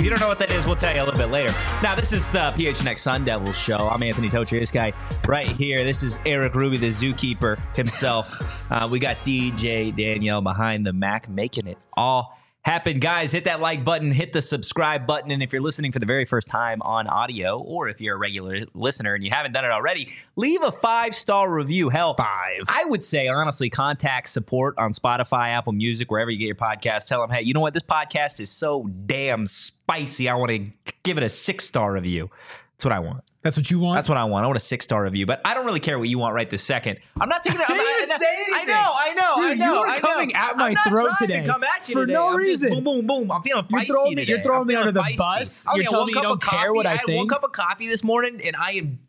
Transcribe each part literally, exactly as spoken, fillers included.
you don't know what that is, we'll tell you a little bit later. Now, this is the P H N X Sun Devils show. I'm Anthony Totri, this guy right here. This is Eric Ruby, the zookeeper himself. Uh, we got D J Danielle behind the Mac, making it all happen. Guys, hit that like button, hit the subscribe button, and if you're listening for the very first time on audio, or if you're a regular listener and you haven't done it already, leave a five-star review. Hell, Five. I would say, honestly, contact support on Spotify, Apple Music, wherever you get your podcast. Tell them, hey, you know what? This podcast is so damn spicy. I want to give it a six-star review. That's what I want. That's what you want? That's what I want. I want a six-star review, but I don't really care what you want right this second. I'm not taking it. I didn't I'm even not, say I anything. know, I know, Dude, I know. you are I know. coming at my I'm not throat trying today to come at you for today. no I'm just reason. boom, boom, boom. I'm feeling You're feisty throwing me- today. you're throwing I'm me feeling under the feisty. bus. I You're had telling one me you cup don't of care coffee. what I I had one think? cup of coffee this morning, and I am,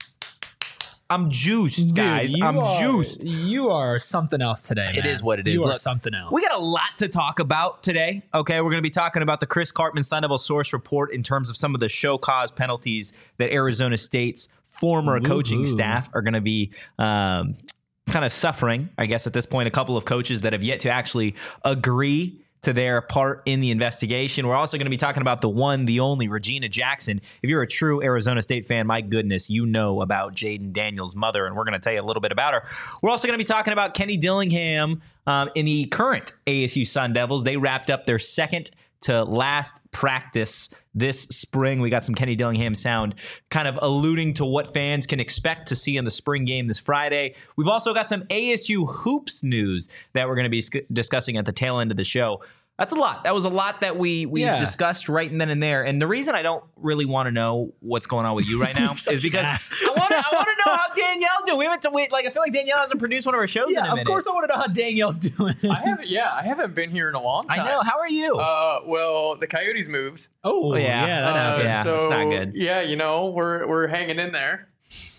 I'm juiced, guys. Dude, you I'm are, juiced. You are something else today, It man. is what it is. You are Look, something else. We got a lot to talk about today. Okay, we're going to be talking about the Chris Karpman Sun Devil source report in terms of some of the show cause penalties that Arizona State's former coaching Woohoo. staff are going to be um, kind of suffering. I guess at this point, a couple of coaches that have yet to actually agree to their part in the investigation. We're also going to be talking about the one, the only Regina Jackson. If you're a true Arizona State fan, my goodness, you know about Jaden Daniels' mother, and we're going to tell you a little bit about her. We're also going to be talking about Kenny Dillingham um, in the current A S U Sun Devils. They wrapped up their second to last practice this spring. We got some Kenny Dillingham sound kind of alluding to what fans can expect to see in the spring game this Friday. We've also got some A S U hoops news that we're going to be sc- discussing at the tail end of the show. That's a lot. That was a lot that we we Yeah. discussed right then and there. And the reason I don't really want to know what's going on with you right now such is because an ass. I want to I want to know how Danielle's doing. We haven't to wait. Like I feel like Danielle hasn't produced one of our shows in a yeah, minute. of course I want to know how Danielle's doing. I haven't. Yeah, I haven't been here in a long time. I know. How are you? Uh, well, the Coyotes moved. oh, yeah. yeah, that Uh, happened. Yeah, so it's not good. Yeah, you know, we're we're hanging in there.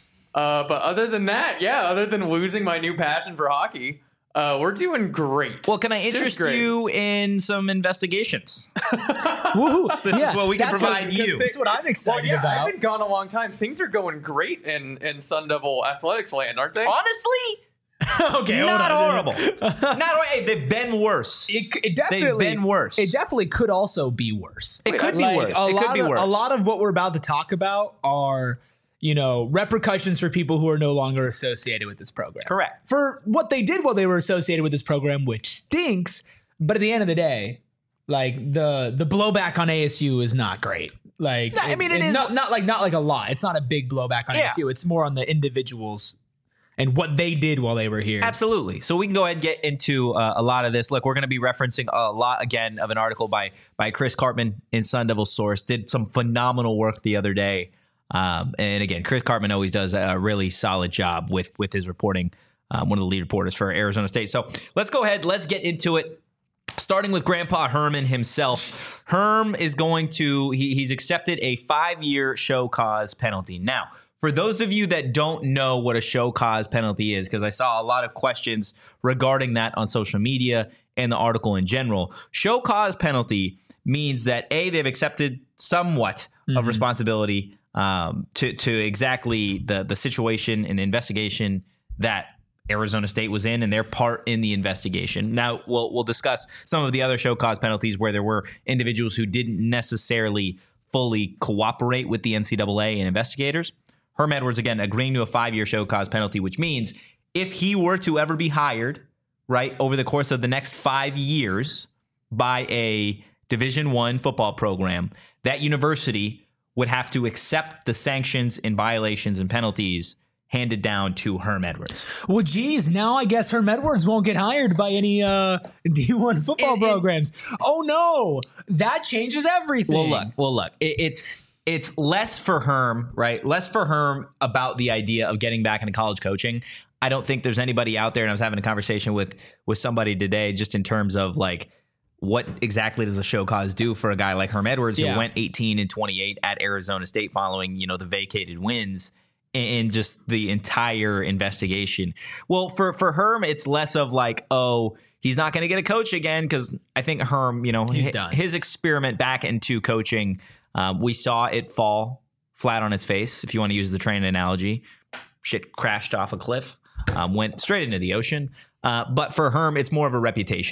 Uh, but other than that, yeah, other than losing my new passion for hockey, uh, we're doing great. Well, can I Just interest great. you in some investigations? Woohoo. This is Yeah, what we can that's provide what, you. That's what I'm Well, excited yeah, about. I've been gone a long time. Things are going great in in Sun Devil athletics land, aren't they? Honestly, okay, not hold on. horrible. Not horrible. Hey, they've been worse. It, it definitely been worse. It definitely could also be worse. It could be Like, worse. A It lot could be of, worse. A lot of what we're about to talk about are, you know, repercussions for people who are no longer associated with this program. Correct. For what they did while they were associated with this program, which stinks. But at the end of the day, like the the blowback on A S U is not great. Like, No, I mean, it is- not, not like not like a lot. It's not a big blowback on Yeah. A S U. It's more on the individuals and what they did while they were here. Absolutely. So we can go ahead and get into uh, a lot of this. Look, we're going to be referencing a lot again of an article by by Chris Karpman in Sun Devil Source. Did some phenomenal work the other day. Um, and again, Chris Karpman always does a really solid job with with his reporting. Um, one of the lead reporters for Arizona State. So let's go ahead. Let's get into it. Starting with Grandpa Herman himself. Herm is going to, he, he's accepted a five-year show cause penalty. Now, for those of you that don't know what a show cause penalty is, because I saw a lot of questions regarding that on social media and the article in general, show cause penalty means that A, they've accepted somewhat Mm-hmm. of responsibility um, to, to exactly the, the situation and the investigation that Arizona State was in and their part in the investigation. Now, we'll we'll discuss some of the other show cause penalties where there were individuals who didn't necessarily fully cooperate with the N C double A and investigators. Herm Edwards, again, agreeing to a five-year show cause penalty, which means if he were to ever be hired, right, over the course of the next five years by a Division One football program, that university would have to accept the sanctions and violations and penalties handed down to Herm Edwards. Well, geez, now I guess Herm Edwards won't get hired by any uh, D one football And- and- programs. Oh no, that changes everything. Well, look, well, look, it, it's it's less for Herm, right? Less for Herm about the idea of getting back into college coaching. I don't think there's anybody out there, and I was having a conversation with with somebody today, just in terms of like, what exactly does a show cause do for a guy like Herm Edwards, who Yeah. went eighteen and twenty-eight at Arizona State following, you know, the vacated wins and just the entire investigation? Well, for for Herm, it's less of like, oh, he's not going to get a coach again, because I think Herm, you know, He's hi- done. his experiment back into coaching, um, we saw it fall flat on its face, if you want to use the train analogy. Shit crashed off a cliff, um, went straight into the ocean. Uh, but for Herm, it's more of a reputation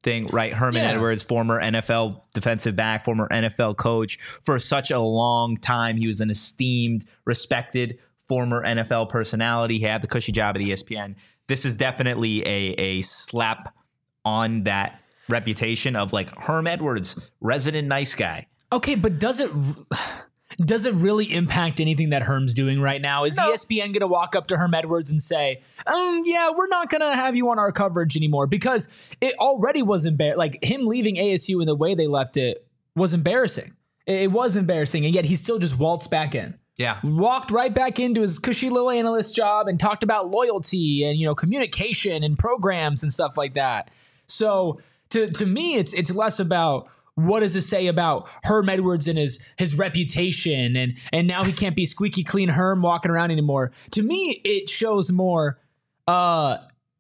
thing, right? Herman Yeah. Edwards, former N F L defensive back, former N F L coach for such a long time. He was an esteemed, respected former N F L personality. He had the cushy job at E S P N. This is definitely a, a slap on that reputation of like Herm Edwards, resident nice guy. Okay, but does it does it really impact anything that Herm's doing right now? Is No. E S P N going to walk up to Herm Edwards and say, um, yeah, we're not going to have you on our coverage anymore? Because it already was embarrassing. Like him leaving A S U and the way they left it was embarrassing. It it was embarrassing, and yet he still just waltzed back in. Yeah. Walked right back into his cushy little analyst job and talked about loyalty and, you know, communication and programs and stuff like that. So to to me, it's it's less about what does it say about Herm Edwards and his his reputation, and and now he can't be squeaky clean Herm walking around anymore. To me, it shows more. Uh,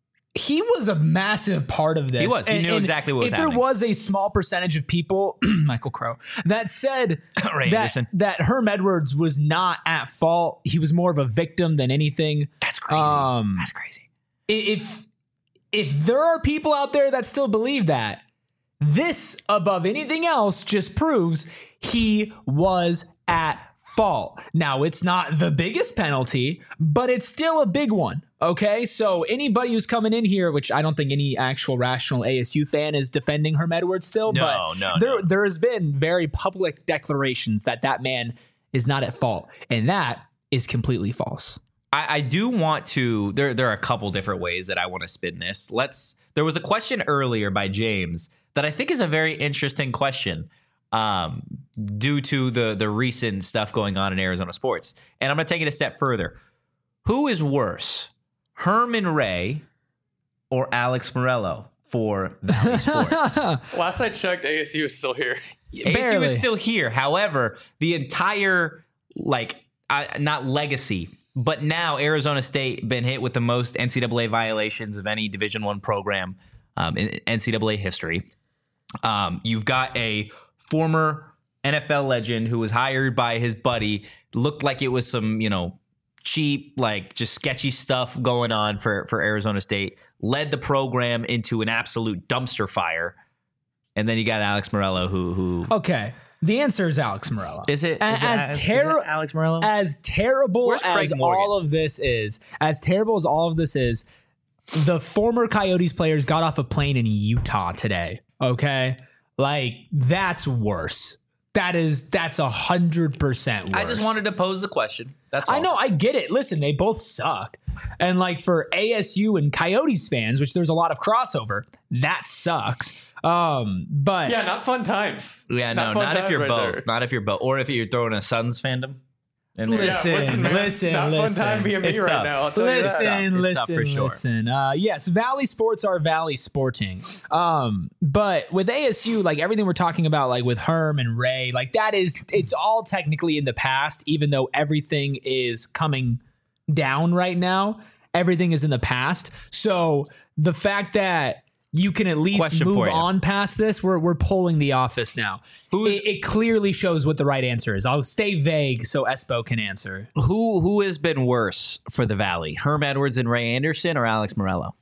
he was a massive part of this. He was. He And- knew and exactly what was if happening. there was a small percentage of people, Michael Crow, that said Ray that Anderson. that Herm Edwards was not at fault. He was more of a victim than anything. That's crazy. Um, That's crazy. If if there are people out there that still believe that, this above anything else just proves he was at fault. Now, it's not the biggest penalty, but it's still a big one. Okay, so anybody who's coming in here, which I don't think any actual rational A S U fan is defending Herm Edwards still, No, but no, there no. there has been very public declarations that that man is not at fault, and that is completely false. I, I do want to. There, there are a couple different ways that I want to spin this. Let's. There was a question earlier by James that I think is a very interesting question, um, due to the the recent stuff going on in Arizona sports. And I'm going to take it a step further. Who is worse, Herman Ray or Alex Morello for Valley Sports? Last I checked, A S U is still here. A S U Barely. is still here. However, the entire like uh, not legacy, but now Arizona State been hit with the most N C double A violations of any Division One program um, in N C double A history. Um, you've got a former N F L legend who was hired by his buddy. Looked like it was some, you know, cheap, like just sketchy stuff going on for for Arizona State. Led the program into an absolute dumpster fire. And then you got Alex Morello, who who Okay, the answer is Alex Morello. is it? A- is it- as is it terri- Alex Morello? As terrible Where's Craig as Morgan? all of this is, as terrible as all of this is, the former Coyotes players got off a plane in Utah today. Okay, like that's worse. That is that's a hundred percent worse. I just wanted to pose the question. That's all. I know, I get it. Listen, they both suck. And like for A S U and Coyotes fans, which there's a lot of crossover, that sucks. Um, but Yeah, not fun times. Yeah, no, fun not if times you're right both. there. Not if you're both, or if you're throwing a Suns fandom. in there. Listen, Yeah, listen, man. listen, Not listen. fun time being me It's right tough. now. I'll tell you that. Listen, It's tough listen, for sure. listen. Uh, yes, Valley Sports are Valley Sporting. Um, but with A S U, like everything we're talking about, like with Herm and Ray, like that is, it's all technically in the past, even though everything is coming down right now. Everything is in the past. So the fact that you can at least Question move for you. on past this, we're we're pulling the office now. Who's- It, it clearly shows what the right answer is. I'll stay vague so Espo can answer. Who who has been worse for the Valley? Herm Edwards and Ray Anderson or Alex Morello?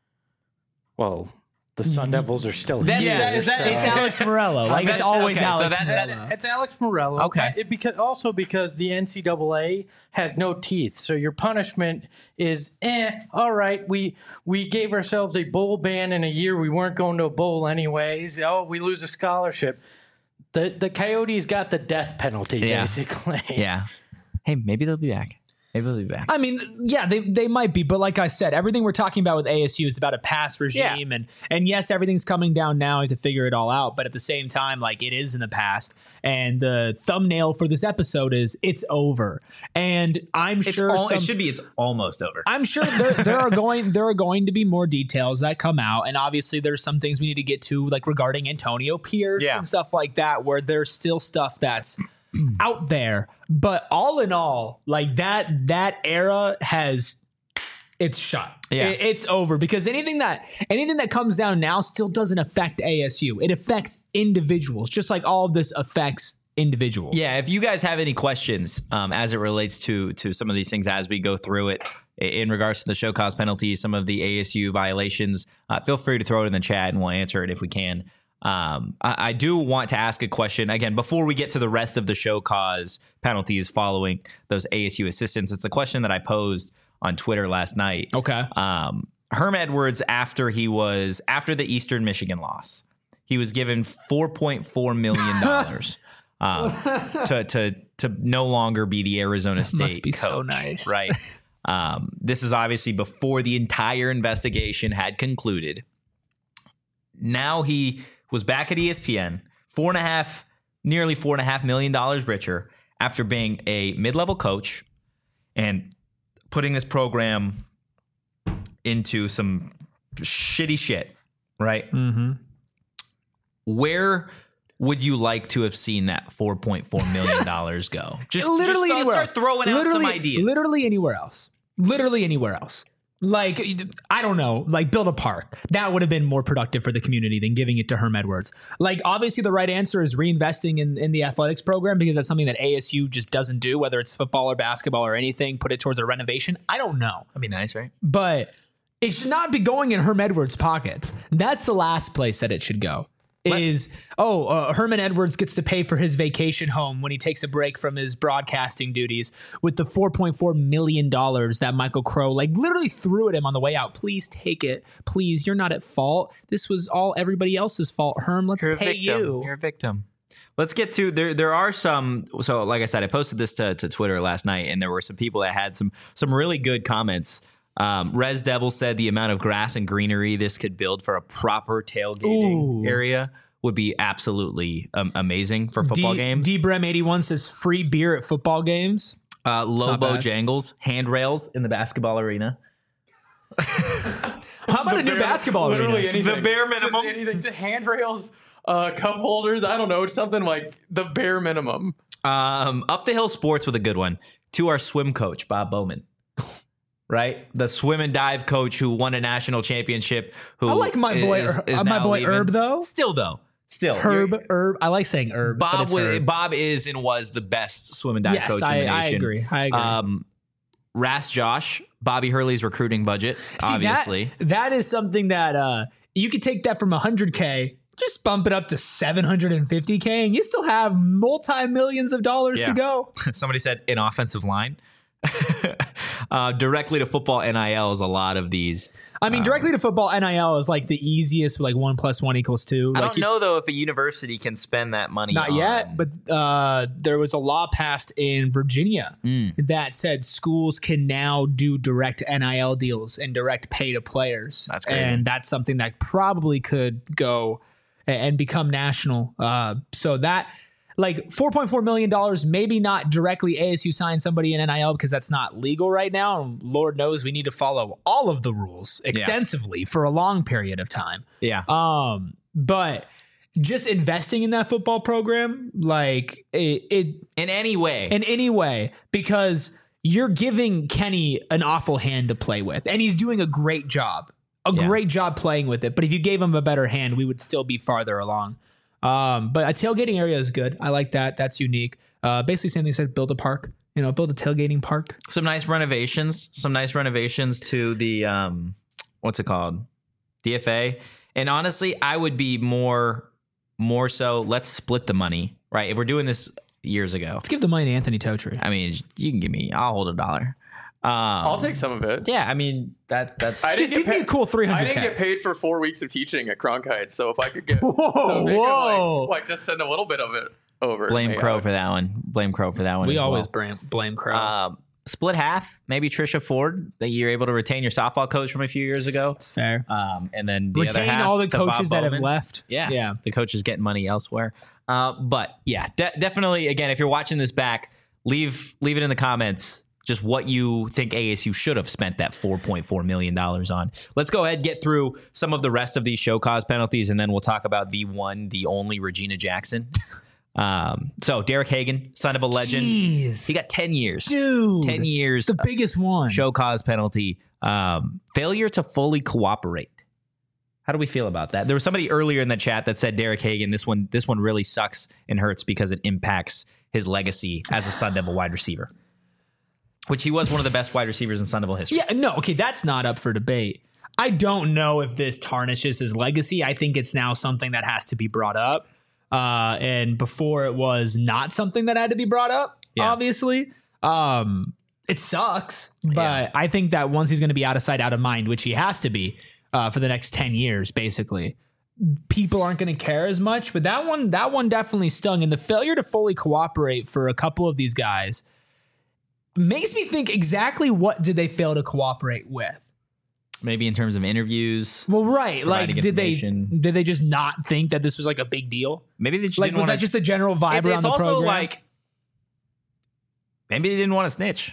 Well, the Sun Devils are still That- here. that- is that- so- It's Alex Morello. Like it's That's- always okay, so Alex that- Morello. that's- It's Alex Morello. Okay. It because also because the N C double A has no teeth, so your punishment is eh. All right, we we gave ourselves a bowl ban in a year we weren't going to a bowl anyways. Oh, we lose a scholarship. The the Coyotes got the death penalty Yeah. basically. Yeah. Hey, maybe they'll be back. Maybe they'll be back. I mean, yeah, they, they might be, but like I said, everything we're talking about with A S U is about a past regime, and and yes, everything's coming down now to figure it all out. But at the same time, like it is in the past, and the thumbnail for this episode is "It's over." And I'm It's sure al- some, it should be. It's almost over. I'm sure there there are going there are going to be more details that come out, and obviously there's some things we need to get to, like regarding Antonio Pierce Yeah. and stuff like that, where there's still stuff that's out there. But all in all, like that that era has it's shut. Yeah. It- it's over because anything that anything that comes down now still doesn't affect A S U. It affects individuals, just like all of this affects individuals. Yeah, if you guys have any questions um, as it relates to to some of these things as we go through it, in regards to the show cause penalties, some of the A S U violations, uh, feel free to throw it in the chat and we'll answer it if we can. Um, I, I do want to ask a question again before we get to the rest of the show cause penalties following those A S U assistants. It's a question that I posed on Twitter last night. Okay. Um, Herm Edwards, after he was after the Eastern Michigan loss, he was given four point four million dollars um, to to to no longer be the Arizona State must be coach. so nice. Right. Um, this is obviously before the entire investigation had concluded. Now he was back at E S P N, four and a half, nearly four and a half million dollars richer after being a mid-level coach and putting this program into some shitty shit, right? Mm-hmm. Where would you like to have seen that four point four million dollars go? Just literally just, uh, anywhere start else. throwing out literally, some ideas. Literally anywhere else. Literally anywhere else. Like, I don't know, like build a park. That would have been more productive for the community than giving it to Herm Edwards. Like, obviously the right answer is reinvesting in, in the athletics program because that's something that A S U just doesn't do, whether it's football or basketball or anything, put it towards a renovation. I don't know. That'd be nice, right? But it should not be going in Herm Edwards' pockets. That's the last place that it should go. Is, oh, uh, Herman Edwards gets to pay for his vacation home when he takes a break from his broadcasting duties with the four point four million dollars that Michael Crow like literally threw at him on the way out. Please take it. Please, you're not at fault. This was all everybody else's fault. Herm, let's You're a pay victim. you. You're a victim. Let's get to there. There are some. So, like I said, I posted this to, to Twitter last night, and there were some people that had some some really good comments. Um, Res Devil said the amount of grass and greenery this could build for a proper tailgating Ooh. area would be absolutely um, amazing for football D- games. D Brem eighty-one says free beer at football games. Uh, not Lobo bad. Jangles, handrails in the basketball arena. How about a new Bare- basketball literally arena? anything. The bare Just minimum. anything. Just handrails, uh, cup holders. I don't know. It's something like the bare minimum. Um, Up the Hill Sports with a good one to our swim coach, Bob Bowman. Right? The swim and dive coach who won a national championship. Who I like my boy, is- is uh, my now boy leaving. Herb though. Still though. Still. Herb, you're- Herb. I like saying Herb. but Bob it's was, Herb. Bob is and was the best swim and dive Yes, coach I, in the I nation. agree. I agree. Um, Ras Josh, Bobby Hurley's recruiting budget, See, obviously. that, that is something that uh, you could take that from one hundred K, just bump it up to seven hundred fifty K, and you still have multi millions of dollars Yeah. to go. Somebody said an offensive line. uh, directly to football N I L is a lot of these. I mean, directly to football N I L is like the easiest, like one plus one equals two. I Like don't you- know though if a university can spend that money. Not on- yet, but uh, there was a law passed in Virginia Mm. that said schools can now do direct N I L deals and direct pay to players. That's crazy. And that's something that probably could go a- and become national. Uh, so that, like four point four million dollars, maybe not directly A S U sign somebody in N I L because that's not legal right now. And Lord knows we need to follow all of the rules extensively for a long period of time. yeah. Um, but just investing in that football program, like it, it in any way. in any way, because you're giving Kenny an awful hand to play with, and he's doing a great job, a Yeah. great job playing with it. But if you gave him a better hand, we would still be farther along. Um, but a tailgating area is good. I like that. That's unique. Uh, basically, same thing said, build a park. You know, build a tailgating park. some nice renovations. Some nice renovations to the um, what's it called, D F A. And honestly, I would be more, more so. Let's split the money, right? If we're doing this years ago, Let's give the money to Anthony Totri. I mean, you can give me. I'll hold a dollar. Um, I'll take some of it. Yeah, I mean that's that's. I Just didn't give get me a paid- cool three I hundred didn't K. get paid for four weeks of teaching at Cronkite, so if I could get, Whoa, so if they could, whoa. like, like just send a little bit of it over. blame maybe I Crow would- for that one. Blame Crow for that one. We as always well. blame, blame Crow. Um, split half. Maybe Trisha Ford that you're able to retain your softball coach from a few years ago. It's fair. Um, and then the other Retain half all the to Bob coaches that have Bowman. left. Yeah, Yeah. the coaches getting money elsewhere. Uh, but yeah, de- definitely. Again, if you're watching this back, leave leave it in the comments. Just what you think A S U should have spent that four point four million dollars on. Let's go ahead and get through some of the rest of these show cause penalties, and then we'll talk about the one, the only Regina Jackson. um, so Derek Hagan, son of a legend, Jeez. he got ten years. Dude. ten years. The biggest one. Show cause penalty. Um, failure to fully cooperate. How do we feel about that? There was somebody earlier in the chat that said Derek Hagan, this one, this one really sucks and hurts because it impacts his legacy as a Sun Devil wide receiver. which he was one of the best wide receivers in Sun Devil history. Yeah, no, okay, that's not up for debate. I don't know if this tarnishes his legacy. I think it's now something that has to be brought up. Uh, and before it was not something that had to be brought up, Yeah. obviously. Um, it sucks, but Yeah. I think that once he's going to be out of sight, out of mind, which he has to be uh, for the next ten years, basically, people aren't going to care as much. But that one, that one definitely stung. And the failure to fully cooperate for a couple of these guys makes me think exactly what did they fail to cooperate with? Maybe in terms of interviews. Well, right. Like, Providing did they information. did they just not think that this was like a big deal? Maybe they just Like, didn't was want that just the general vibe It's, around it's the also program? like maybe they didn't want to snitch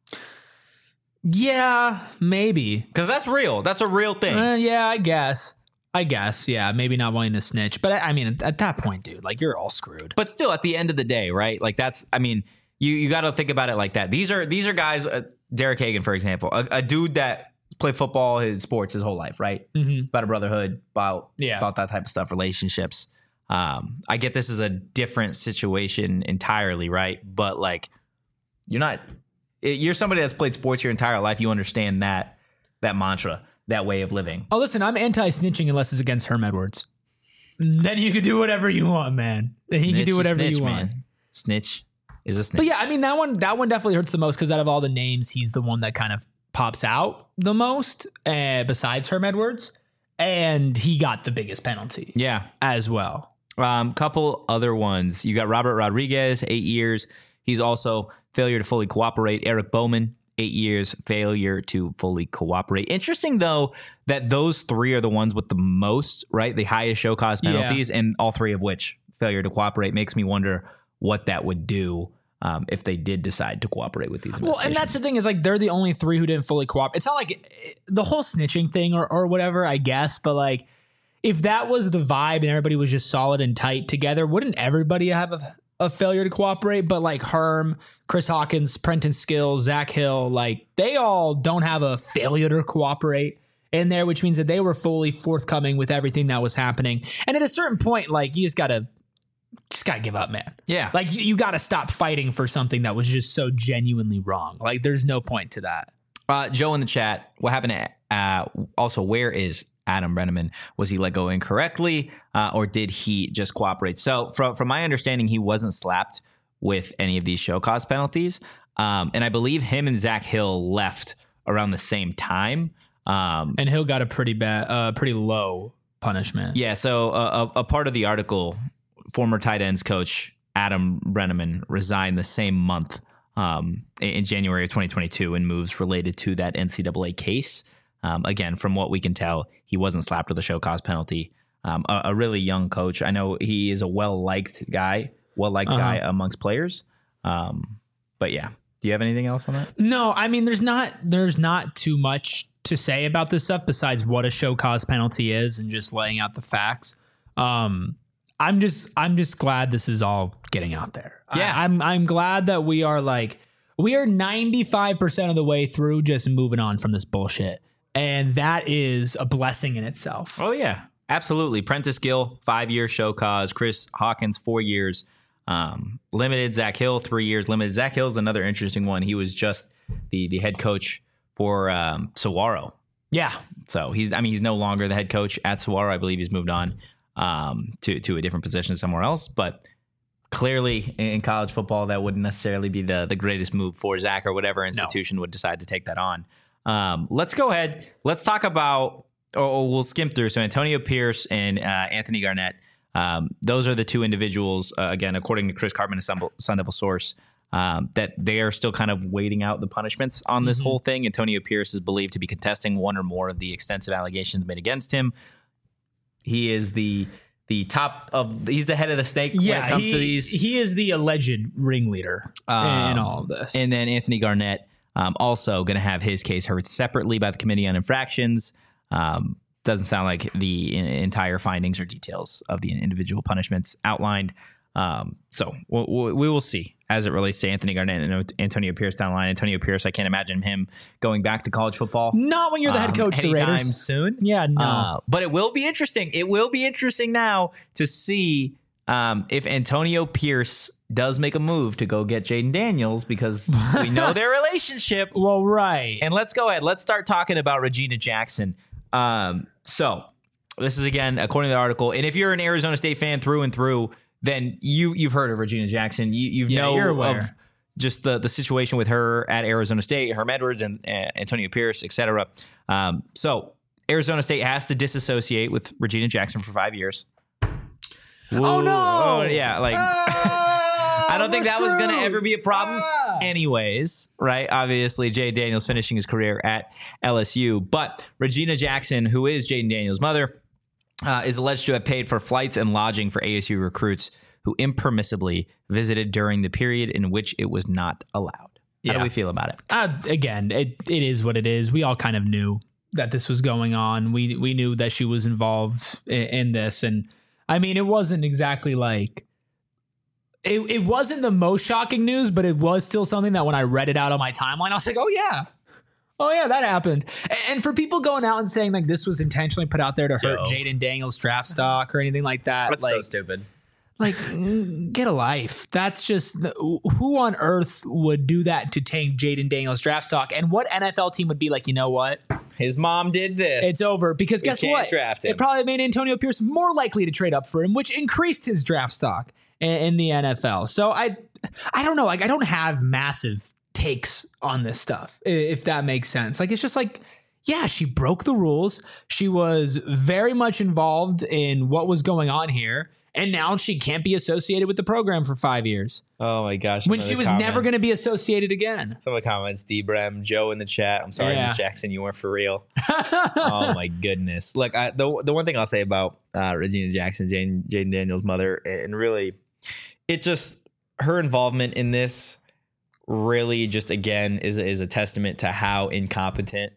yeah, maybe. because that's real. That's a real thing. Uh, yeah, I guess. I guess. Yeah, maybe not wanting to snitch, but I, I mean, at, at that point, dude, like you're all screwed. But still, at the end of the day, right? Like that's. I mean, you you got to think about it like that. These are these are guys. Uh, Derek Hagan, for example, a, a dude that played football, his sports, his whole life, right? Mm-hmm. About a brotherhood, about Yeah. about that type of stuff, relationships. Um, I get this is a different situation entirely, right? But like, you're not. it- You're somebody that's played sports your entire life. You understand that that mantra, that way of living. Oh, listen, I'm anti-snitching unless it's against Herm Edwards. Then you can do whatever you want, man. Then you can Snitch do is whatever snitch, you want. man. Snitch is a snitch. But yeah, I mean that one that one definitely hurts the most because out of all the names, he's the one that kind of pops out the most, uh, besides Herm Edwards, and he got the biggest penalty yeah. as well. Um, couple other ones. You got Robert Rodriguez, eight years. He's also failure to fully cooperate. Eric Bowman, eight years, failure to fully cooperate. Interesting though that those three are the ones with the most, right? The highest show cause penalties, and all three of which failure to cooperate. Makes me wonder what that would do um, if they did decide to cooperate with these Well, and investigations. that's the thing is like they're the only three who didn't fully cooperate. It's not like it, the whole snitching thing or or whatever, I guess, but like if that was the vibe and everybody was just solid and tight together, wouldn't everybody have a, a failure to cooperate? But like Herm, Chris Hawkins, Prenton Skills, Zach Hill, like they all don't have a failure to cooperate in there, which means that they were fully forthcoming with everything that was happening. And at a certain point, like you just gotta just gotta give up, man. yeah. Like you, you got to stop fighting for something that was just so genuinely wrong. Like there's no point to that. Uh, Joe in the chat, what happened to, uh, also, where is Adam Brenneman? Was he let go incorrectly uh, or did he just cooperate? So from, from my understanding, he wasn't slapped with any of these show cause penalties. Um, and I believe him and Zach Hill left around the same time. Um, And Hill got a pretty bad, uh, pretty low punishment. yeah, so a, a, a part of the article, former tight ends coach Adam Brenneman resigned the same month um, in, in January of twenty twenty-two in moves related to that N C double A case. Um, again, from what we can tell, he wasn't slapped with a show cause penalty. Um, a, a really young coach. I know he is a well-liked guy, well-liked Uh-huh. guy amongst players. Um, but yeah, do you have anything else on that? No, I mean, there's not, there's not too much to say about this stuff besides what a show cause penalty is and just laying out the facts. Um, I'm just, I'm just glad this is all getting out there. Yeah. I, I'm, I'm glad that we are like, we are ninety-five percent of the way through just moving on from this bullshit. And that is a blessing in itself. Oh, yeah, absolutely. Prentice Gill, five-year show cause. Chris Hawkins, four years. Um, limited. Zach Hill, three years. Limited. Zach Hill's another interesting one. He was just the the head coach for um, Saguaro. Yeah. So he's, I mean, he's no longer the head coach at Saguaro. I believe he's moved on um, to, to a different position somewhere else. But clearly in college football, that wouldn't necessarily be the, the greatest move for Zach or whatever institution would decide to take that on. Um, let's go ahead. Let's talk about, or, or we'll skim through. So Antonio Pierce and uh, Anthony Garnett. Um, those are the two individuals, uh, again, according to Chris Cartman, a Sun, Sun Devil source, um, that they are still kind of waiting out the punishments on this Mhm. whole thing. Antonio Pierce is believed to be contesting one or more of the extensive allegations made against him. He is the the top of, he's the head of the snake when it comes he, to these. he is the alleged ringleader Um, in all of this. And then Anthony Garnett, um, also going to have his case heard separately by the Committee on Infractions. Um, doesn't sound like the in- entire findings or details of the individual punishments outlined. Um, so we'll, we'll, we will see as it relates to Anthony Garnett and Antonio Pierce down the line. Antonio Pierce, I can't imagine him going back to college football Not when you're the head um, coach of the anytime Raiders. soon. Yeah, no. Uh, but it will be interesting. It will be interesting now to see um, if Antonio Pierce does make a move to go get Jaden Daniels, because we know their relationship. Well, right. And let's go ahead. Let's start talking about Regina Jackson. Um, so this is, again, according to the article. And if you're an Arizona State fan through and through, then you, you've heard of Regina Jackson. You you Yeah, know you're aware. of just the, the situation with her at Arizona State, Herm Edwards and uh, Antonio Pierce, et cetera. Um, so Arizona State has to disassociate with Regina Jackson for five years. Oh, no. Oh, yeah. Like, Ah, I don't think we're that was going to screwed. ever be a problem Ah. anyways, right? Obviously, Jaden Daniels finishing his career at L S U. But Regina Jackson, who is Jaden Daniels' mother, uh, is alleged to have paid for flights and lodging for A S U recruits who impermissibly visited during the period in which it was not allowed. How Yeah. do we feel about it? Uh, again, it, it is what it is. We all kind of knew that this was going on. We we knew that she was involved in, in this. And I mean, it wasn't exactly like... It, it wasn't the most shocking news, but it was still something that when I read it out on my timeline, I was like, oh, yeah. Oh, yeah, that happened. And, and for people going out and saying like this was intentionally put out there to hurt So- Jaden Daniels' draft stock or anything like that. like, stupid. Like, mm, get a life. That's just who on earth would do that to tank Jaden Daniels' draft stock? And what N F L team would be like, you know what? His mom did this. It's over. Because We guess can't what? draft him. It probably made Antonio Pierce more likely to trade up for him, which increased his draft stock in, in the N F L. So I, I don't know. Like, I don't have massive takes on this stuff, i- if that makes sense. Like, it's just like, yeah, she broke the rules. She was very much involved in what was going on here. And now she can't be associated with the program for five years Oh, my gosh. when Some of she the was never comments- going to be associated again. Some of the comments, D-Brem, Joe in the chat. I'm sorry, Yeah. Miss Jackson, you weren't for real. Oh my goodness! Look, I, the the one thing I'll say about uh, Regina Jackson, Jane Jaden Daniels' mother, and really, it just her involvement in this really just again is is a testament to how incompetent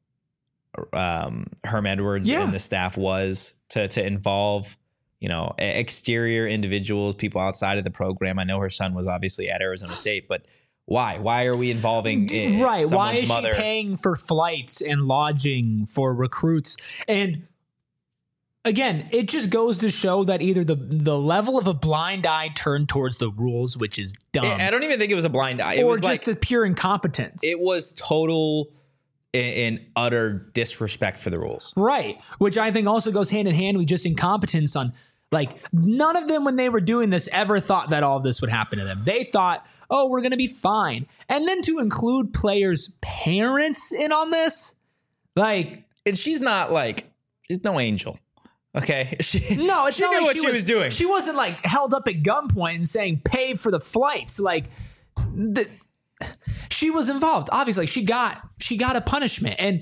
um, Herm Edwards Yeah. and the staff was to to involve. You know, e- exterior individuals, people outside of the program. I know her son was obviously at Arizona State, but why? Why are we involving uh, Right. Why someone's is mother? she paying for flights and lodging for recruits? And again, it just goes to show that either the the level of a blind eye turned towards the rules, which is dumb, I I don't even think it was a blind eye. It or was just like the pure incompetence. it was total and utter disrespect for the rules. Right. Which I think also goes hand in hand with just incompetence on, like, none of them when they were doing this ever thought that all of this would happen to them. They thought, oh, we're going to be fine. And then to include players' parents in on this, like, And she's not like she's no angel. Okay. She, no, it's she not knew like what she, she was, was doing. She wasn't like held up at gunpoint and saying pay for the flights. Like, the, she was involved. Obviously, she got she got a punishment. And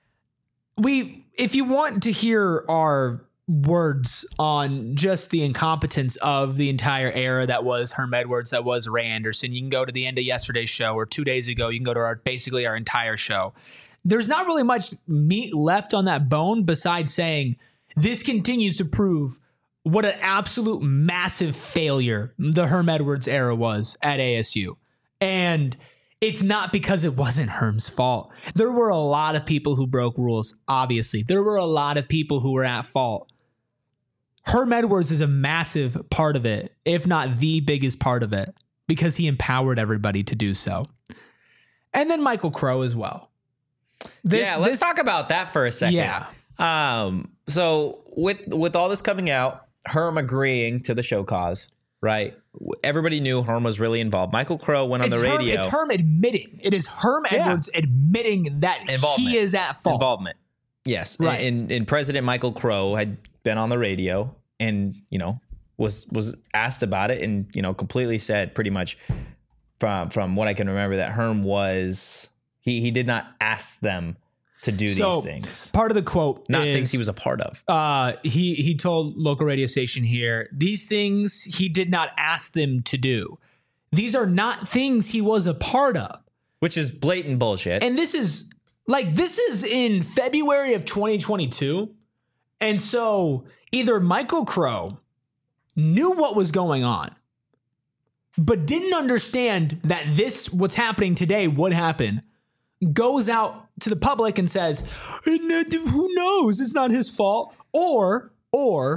we, if you want to hear our words on just the incompetence of the entire era that was Herm Edwards, that was Ray Anderson, you can go to the end of yesterday's show, or two days ago. You can go to our basically our entire show. There's not really much meat left on that bone besides saying this continues to prove what an absolute massive failure the Herm Edwards era was at A S U. And it's not because it wasn't Herm's fault. There were a lot of people who broke rules, obviously. There were a lot of people who were at fault. Herm Edwards is a massive part of it, if not the biggest part of it, because he empowered everybody to do so. And then Michael Crow as well. This- yeah, let's this- talk about that for a second. Yeah. Um, so with with all this coming out, Herm agreeing to the show cause, right? Everybody knew Herm was really involved. Michael Crow went on It's the Herm, radio. it's Herm admitting. It is Herm Yeah. Edwards admitting that Involvement. he is at fault. Involvement. Yes. Right. And, and President Michael Crow had been on the radio and, you know, was was asked about it and, you know, completely said pretty much from from what I can remember that Herm was he he did not ask them to do So, these things. part of the quote Not is, things he was a part of. uh, he he told local radio station here, these things he did not ask them to do. These are not things he was a part of. Which is blatant bullshit. And this is like this is in February of twenty twenty-two. And so either Michael Crow knew what was going on, but didn't understand that this what's happening today would happen, goes out to the public and says, who knows? It's not his fault. Or, or,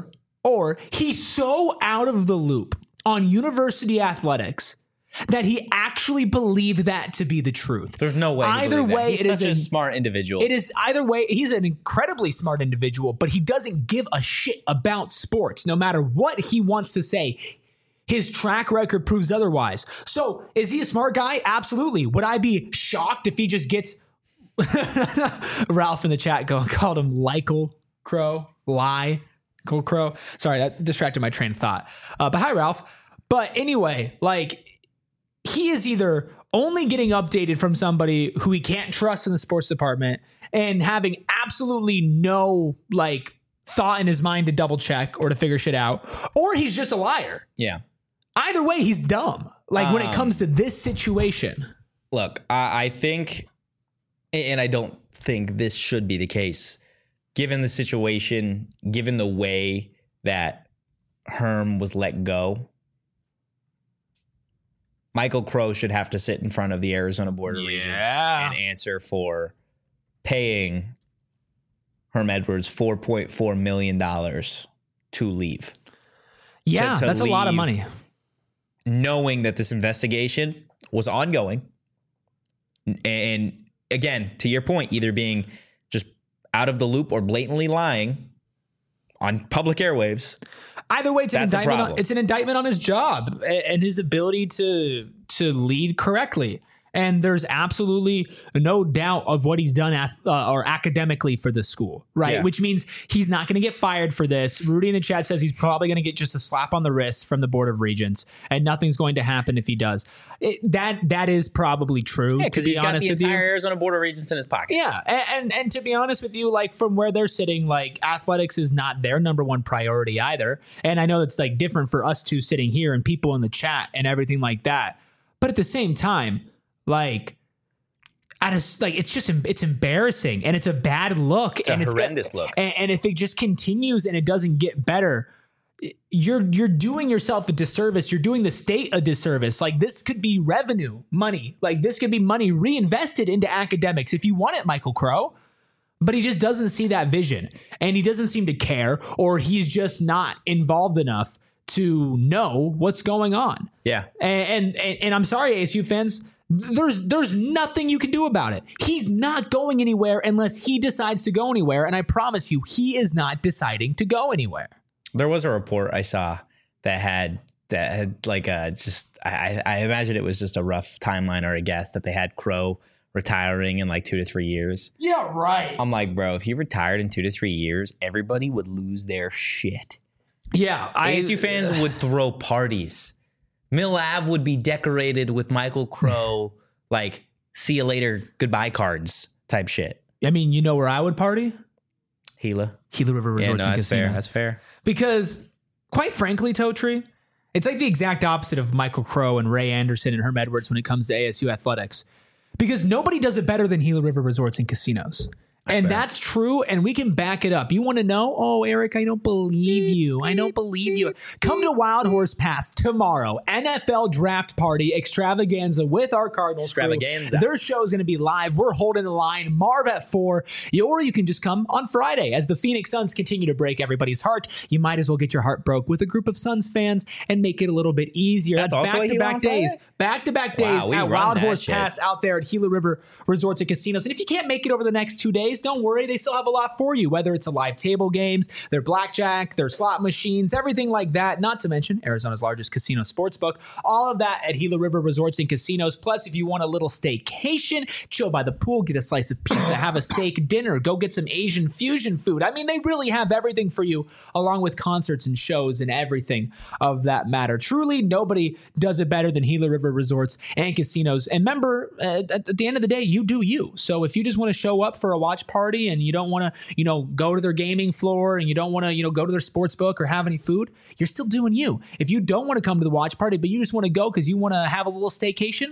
or he's so out of the loop on university athletics that he actually believed that to be the truth. There's no way. Either way, He's it is such a an- smart individual. It is either way. He's an incredibly smart individual, but he doesn't give a shit about sports, no matter what he wants to say. His track record proves otherwise. So is he a smart guy? Absolutely. Would I be shocked if he just gets Ralph in the chat go, called him Lykel Crow, lie, Lykel Crow. Sorry, that distracted my train of thought. Uh, but hi, Ralph. But anyway, like, he is either only getting updated from somebody who he can't trust in the sports department and having absolutely no like thought in his mind to double check or to figure shit out, or he's just a liar. Yeah. Either way, he's dumb. Like um, when it comes to this situation. Look, I, I think, and I don't think this should be the case, given the situation, given the way that Herm was let go. Michael Crow should have to sit in front of the Arizona Board of Yeah. Regents and answer for paying Herm Edwards four point four million dollars to leave. Yeah, To- to that's a lot of leave. money. Knowing that this investigation was ongoing. And again, to your point, either being just out of the loop or blatantly lying on public airwaves. Either way, it's an That's a indictment. On, problem. it's an indictment on his job a- and his ability to to lead correctly. And there's absolutely no doubt of what he's done ath- uh, or academically for this school, right? Yeah. Which means he's not going to get fired for this. Rudy in the chat says he's probably going to get just a slap on the wrist from the Board of Regents, and nothing's going to happen if he does. It, that that is probably true. Yeah, because to be he's got honest the with you. entire Arizona Board of Regents in his pocket. Yeah, and, and and to be honest with you, like from where they're sitting, like athletics is not their number one priority either. And I know it's like different for us two sitting here and people in the chat and everything like that. But at the same time, like, at a, like it's just it's embarrassing and it's a bad look It's a and it's horrendous look. And, and if it just continues and it doesn't get better, you're you're doing yourself a disservice. You're doing the state a disservice. Like this could be revenue money. Like this could be money reinvested into academics if you want it, Michael Crow. But he just doesn't see that vision and he doesn't seem to care, or he's just not involved enough to know what's going on. Yeah. And and, and I'm sorry, A S U fans. There's there's nothing you can do about it. He's not going anywhere unless he decides to go anywhere. And I promise you, he is not deciding to go anywhere. There was a report I saw that had that had like a just I, I imagine it was just a rough timeline or a guess that they had Crow retiring in like two to three years. Yeah, right. I'm like, bro, if he retired in two to three years, everybody would lose their shit. Yeah, I, A S U fans would throw parties. Mill Ave would be decorated with Michael Crow, like, see you later, goodbye cards type shit. I mean, you know where I would party? Gila. Gila River Yeah, Resorts no, and that's Casino. fair. That's fair. Because, quite frankly, Totri, it's like the exact opposite of Michael Crow and Ray Anderson and Herm Edwards when it comes to A S U athletics. Because nobody does it better than Gila River Resorts and Casinos. And fair. that's true, and we can back it up. You want to know? Oh, Eric, I don't believe you. I don't believe you. Come to Wild Horse Pass tomorrow. N F L Draft Party Extravaganza with our Cardinals crew. Extravaganza. Their show is going to be live. We're holding the line. Marv at four. Or you can just come on Friday. As the Phoenix Suns continue to break everybody's heart, you might as well get your heart broke with a group of Suns fans and make it a little bit easier. That's That's also a Gila back-to-back on days. Friday? Back-to-back Wow, days we at run Wild that Horse shit. Pass out there at Gila River Resorts and Casinos. And if you can't make it over the next two days, don't worry. They still have a lot for you, whether it's a live table games, their blackjack, their slot machines, everything like that. Not to mention Arizona's largest casino sportsbook. All of that at Gila River Resorts and Casinos. Plus, if you want a little staycation, chill by the pool, get a slice of pizza, have a steak dinner, go get some Asian fusion food. I mean, they really have everything for you, along with concerts and shows and everything of that matter. Truly, nobody does it better than Gila River Resorts and Casinos. And remember, uh, at the end of the day, you do you. So if you just want to show up for a watch party and you don't want to, you know, go to their gaming floor and you don't want to, you know, go to their sports book or have any food, you're still doing you. If you don't want to come to the watch party, but you just want to go because you want to have a little staycation,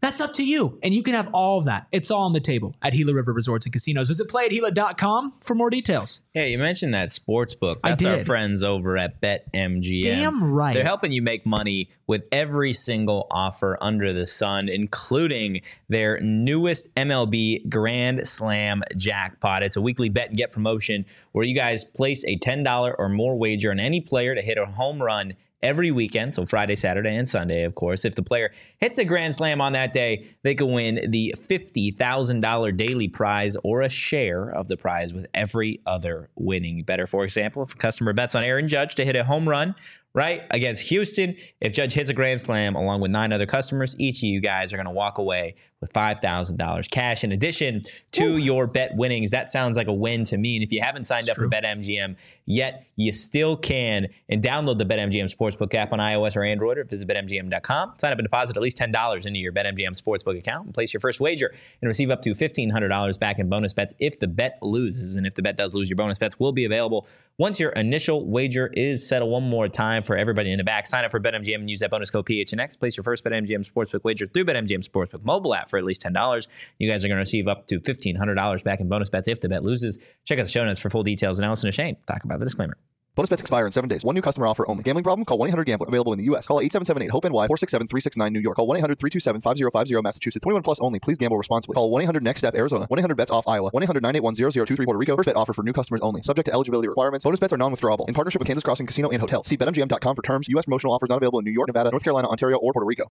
That's up to you. And you can have all of that. It's all on the table at Gila River Resorts and Casinos. Visit play at gila dot com for more details. Yeah, you mentioned that sports book. I That's our did. friends over at BetMGM. Damn right. They're helping you make money with every single offer under the sun, including their newest M L B Grand Slam jackpot. It's a weekly bet and get promotion where you guys place a ten dollars or more wager on any player to hit a home run every weekend, so Friday, Saturday, and Sunday, of course. If the player hits a grand slam on that day, they can win the fifty thousand dollars daily prize or a share of the prize with every other winning better. For example, if a customer bets on Aaron Judge to hit a home run, right, against Houston, if Judge hits a grand slam along with nine other customers, each of you guys are going to walk away with five thousand dollars cash in addition to Ooh. your bet winnings. That sounds like a win to me. And if you haven't signed That's up true. for BetMGM yet, you still can. And download the BetMGM Sportsbook app on iOS or Android, or visit bet M G M dot com. Sign up and deposit at least ten dollars into your BetMGM Sportsbook account and place your first wager and receive up to fifteen hundred dollars back in bonus bets if the bet loses. And if the bet does lose, your bonus bets will be available once your initial wager is settled. One more time for everybody in the back. Sign up for BetMGM and use that bonus code P H N X. Place your first BetMGM Sportsbook wager through BetMGM Sportsbook mobile app for at least ten dollars. You guys are going to receive up to fifteen hundred dollars back in bonus bets if the bet loses. Check out the show notes for full details. And Allison and Shane talk about the disclaimer. Bonus bets expire in seven days. One new customer offer only. Gambling problem? Call one eight hundred gambler. Available in the U S. Call eight seven seven eight hope N Y four six seven three six nine New York. Call one eight hundred three two seven five zero five zero Massachusetts. twenty-one plus only. Please gamble responsibly. Call one eight hundred next step Arizona. one eight hundred bets off Iowa. one eight hundred nine eight one zero zero two three Puerto Rico. First bet offer for new customers only. Subject to eligibility requirements. Bonus bets are non-withdrawable. In partnership with Kansas Crossing Casino and Hotel. See bet M G M dot com for terms. U S promotional offers not available in New York, Nevada, North Carolina, Ontario, or Puerto Rico.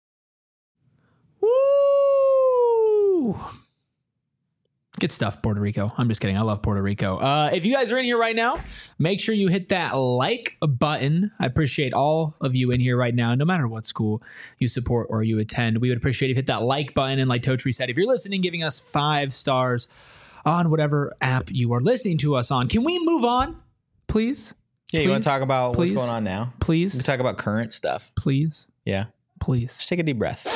Woo! Good stuff, Puerto Rico. I'm just kidding. I love Puerto Rico. Uh, if you guys are in here right now, make sure you hit that like button. I appreciate all of you in here right now, no matter what school you support or you attend. We would appreciate if you hit that like button. And like Totri said, if you're listening, giving us five stars on whatever app you are listening to us on. Can we move on, please? Yeah, please? You want to talk about please? what's going on now? Please. We can talk about current stuff. Please. Yeah. Please. Just take a deep breath.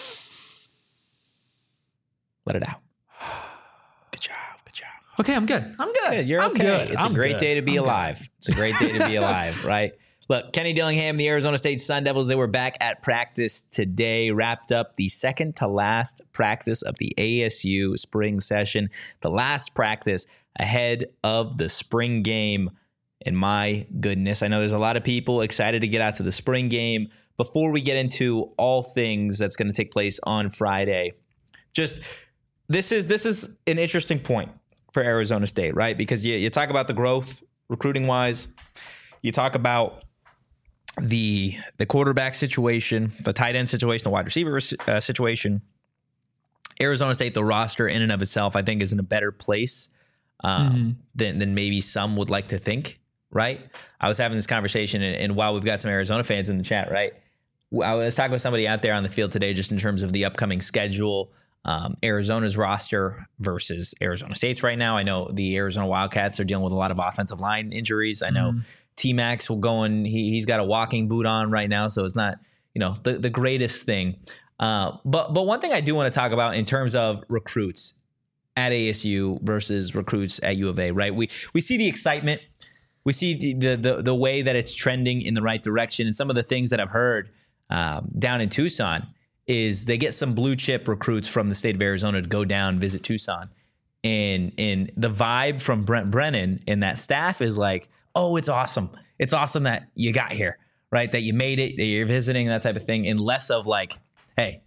Let it out. Good job. Good job. Okay, I'm good. I'm good. Yeah, you're I'm okay. good. It's I'm a great good. day to be I'm alive. good. It's a great day to be alive, right? Look, Kenny Dillingham, the Arizona State Sun Devils, they were back at practice today, wrapped up the second to last practice of the A S U spring session, the last practice ahead of the spring game. And my goodness, I know there's a lot of people excited to get out to the spring game. Before we get into all things that's going to take place on Friday, just this is this is an interesting point for Arizona State, right? Because you, you talk about the growth recruiting wise, you talk about the the quarterback situation, the tight end situation, the wide receiver uh, situation. Arizona State, the roster in and of itself, I think is in a better place um, mm-hmm. than than maybe some would like to think, right? I was having this conversation, and, and while we've got some Arizona fans in the chat, right? I was talking with somebody out there on the field today just in terms of the upcoming schedule, um, Arizona's roster versus Arizona State's right now. I know the Arizona Wildcats are dealing with a lot of offensive line injuries. I know mm. T-Max will go and he, he's got a walking boot on right now, so it's not, you know, the, the greatest thing. Uh, but but one thing I do want to talk about in terms of recruits at A S U versus recruits at U of A, right? We we see the excitement. We see the the the way that it's trending in the right direction. And some of the things that I've heard um, down in Tucson is they get some blue chip recruits from the state of Arizona to go down, visit Tucson. And, and the vibe from Brent Brennan and that staff is like, oh, it's awesome. It's awesome that you got here, right? That you made it, that you're visiting, that type of thing. And less of like, hey,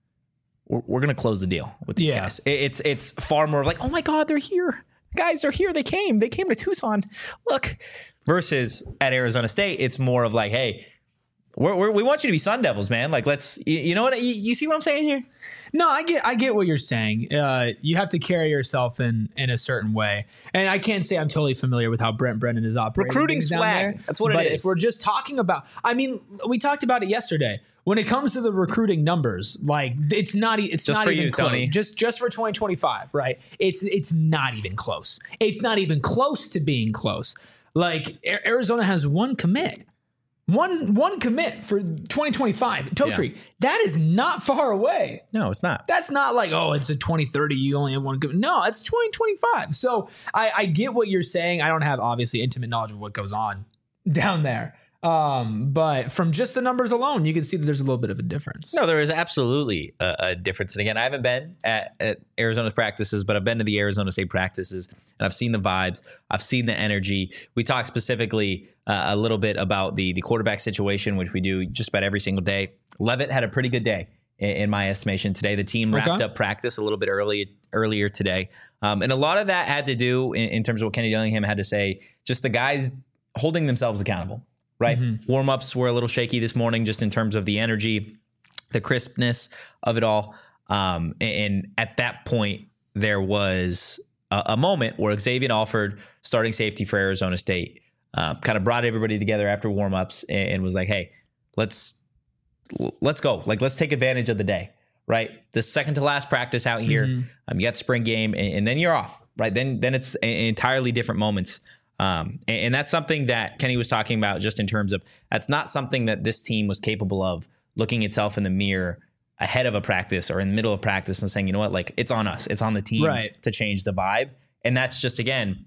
we're, we're going to close the deal with these yeah. guys. It, it's, it's far more like, oh my God, they're here. Guys are here. They came. They came to Tucson. Look. Versus at Arizona State, it's more of like, hey, we're, we're, we want you to be Sun Devils, man. Like, let's, you, you know what? You, you see what I'm saying here? No, I get, I get what you're saying. Uh, you have to carry yourself in, in a certain way, and I can't say I'm totally familiar with how Brent Brennan is operating. Recruiting things down swag. there, That's what but it is. If we're just talking about, I mean, we talked about it yesterday. When it comes to the recruiting numbers, like it's not, it's just not for even you, close. Tony. Just, just for twenty twenty-five, right? It's, it's not even close. It's not even close to being close. Like Arizona has one commit. One one commit for twenty twenty-five. Totri, yeah. That is not far away. No, it's not. That's not like, oh, it's a twenty thirty, you only have one commit. No, it's twenty twenty-five. So I, I get what you're saying. I don't have, obviously, intimate knowledge of what goes on down there. Um, but from just the numbers alone, you can see that there's a little bit of a difference. No, there is absolutely a, a difference. And again, I haven't been at, at Arizona's practices, but I've been to the Arizona State practices and I've seen the vibes. I've seen the energy. We talked specifically uh, a little bit about the, the quarterback situation, which we do just about every single day. Levitt had a pretty good day in, in my estimation today. The team wrapped Okay. up practice a little bit early, earlier today. Um, and a lot of that had to do in, in terms of what Kenny Dillingham had to say, just the guys holding themselves accountable. Right. Mm-hmm. Warm-ups were a little shaky this morning just in terms of the energy, the crispness of it all. Um, and, and at that point, there was a, a moment where Xavier Alford, starting safety for Arizona State, uh, kind of brought everybody together after warm-ups and, and was like, hey, let's let's go. Like, let's take advantage of the day. Right. The second to last practice out here, mm-hmm. um, you got spring game and, and then you're off. Right. Then then it's a, entirely different moments. Um, and, and that's something that Kenny was talking about just in terms of that's not something that this team was capable of looking itself in the mirror ahead of a practice or in the middle of practice and saying, you know what, like it's on us. It's on the team right. to change the vibe. And that's just, again,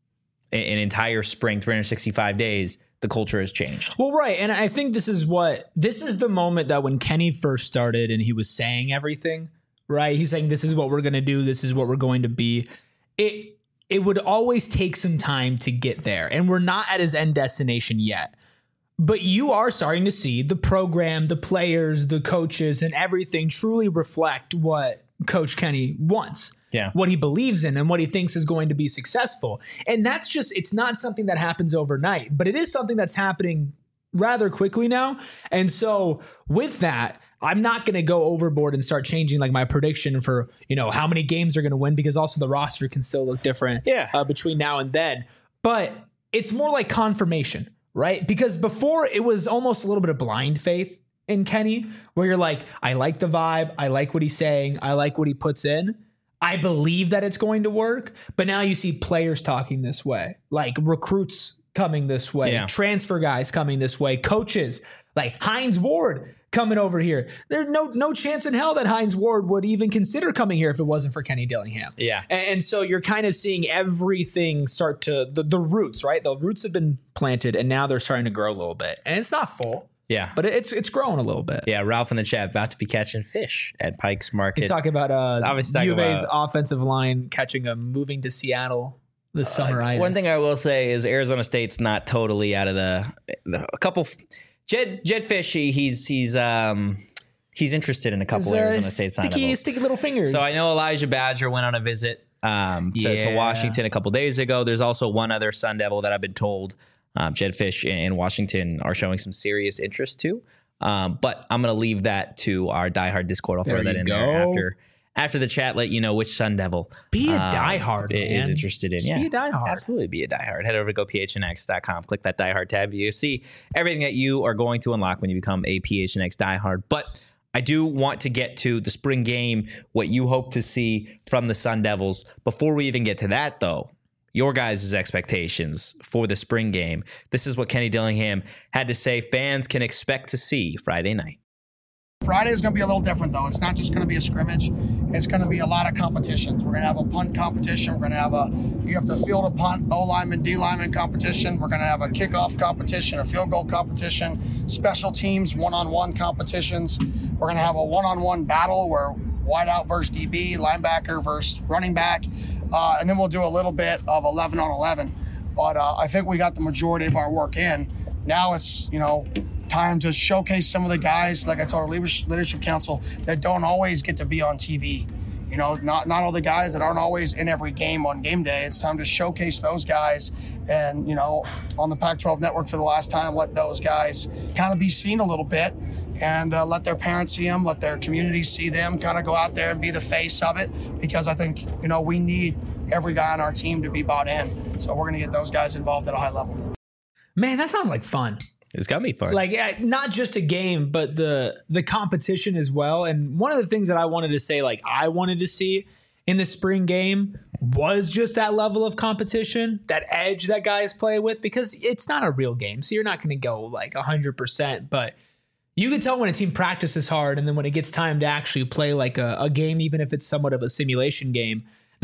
an entire spring, three hundred sixty-five days, the culture has changed. Well, right. And I think this is what this is the moment that when Kenny first started and he was saying everything, right? He's saying, this is what we're going to do. This is what we're going to be. It, It would always take some time to get there, and we're not at his end destination yet. But you are starting to see the program, the players, the coaches, and everything truly reflect what Coach Kenny wants, yeah, what he believes in, and what he thinks is going to be successful. And that's just, it's not something that happens overnight, but it is something that's happening rather quickly now. And so with that, I'm not going to go overboard and start changing like my prediction for, you know, how many games they're going to win, because also the roster can still look different yeah. uh, between now and then. But it's more like confirmation, right? Because before it was almost a little bit of blind faith in Kenny, where you're like, I like the vibe. I like what he's saying. I like what he puts in. I believe that it's going to work. But now you see players talking this way, like recruits coming this way, yeah. transfer guys coming this way, coaches like Hines Ward coming over here. There's no no chance in hell that Hines Ward would even consider coming here if it wasn't for Kenny Dillingham. Yeah. And, and so you're kind of seeing everything start to, the, the roots, right? The roots have been planted and now they're starting to grow a little bit. And it's not full. Yeah. But it's it's growing a little bit. Yeah, Ralph in the chat about to be catching fish at Pike's Market. He's talking about uh, obviously U of A's about, offensive line catching a moving to Seattle this summer. Uh, one thing I will say is Arizona State's not totally out of the, the a couple. Jed Jed Fish, he, he's he's um he's interested in a couple uh, Arizona State sticky, signables. sticky little fingers. So I know Elijah Badger went on a visit um to, yeah. to Washington a couple days ago. There's also one other Sun Devil that I've been told um, Jed Fish in Washington are showing some serious interest to. Um, but I'm gonna leave that to our diehard Discord. I'll throw there that in go. there after. After the chat, let you know which Sun Devil be a um, diehard is man. interested in. Just yeah, be a diehard. Absolutely be a diehard. Head over to go p h n x dot com. Click that diehard tab. You see everything that you are going to unlock when you become a P H N X diehard. But I do want to get to the spring game, what you hope to see from the Sun Devils. Before we even get to that, though, your guys' expectations for the spring game. This is what Kenny Dillingham had to say fans can expect to see Friday night. Friday is going to be a little different, though. It's not just going to be a scrimmage. It's going to be a lot of competitions. We're going to have a punt competition. We're going to have a, you have to field a punt, O-lineman, D-lineman competition. We're going to have a kickoff competition, a field goal competition, special teams, one-on-one competitions. We're going to have a one-on-one battle where wideout versus D B, linebacker versus running back. Uh, and then we'll do a little bit of eleven on eleven. But uh, I think we got the majority of our work in. Now it's, you know, time to showcase some of the guys, like I told our leadership council, that don't always get to be on T V. You know, not not all the guys that aren't always in every game on game day. It's time to showcase those guys and, you know, on the Pac twelve network for the last time, let those guys kind of be seen a little bit and uh, let their parents see them, let their communities see them, kind of go out there and be the face of it, because I think, you know, we need every guy on our team to be bought in. So we're going to get those guys involved at a high level. Man, that sounds like fun. It's gonna be fun. Like yeah, not just a game, but the the competition as well. And one of the things that I wanted to say, like I wanted to see in the spring game, was just that level of competition, that edge that guys play with, because it's not a real game. So you're not going to go like one hundred percent, but you can tell when a team practices hard, and then when it gets time to actually play like a, a game, even if it's somewhat of a simulation game, they're like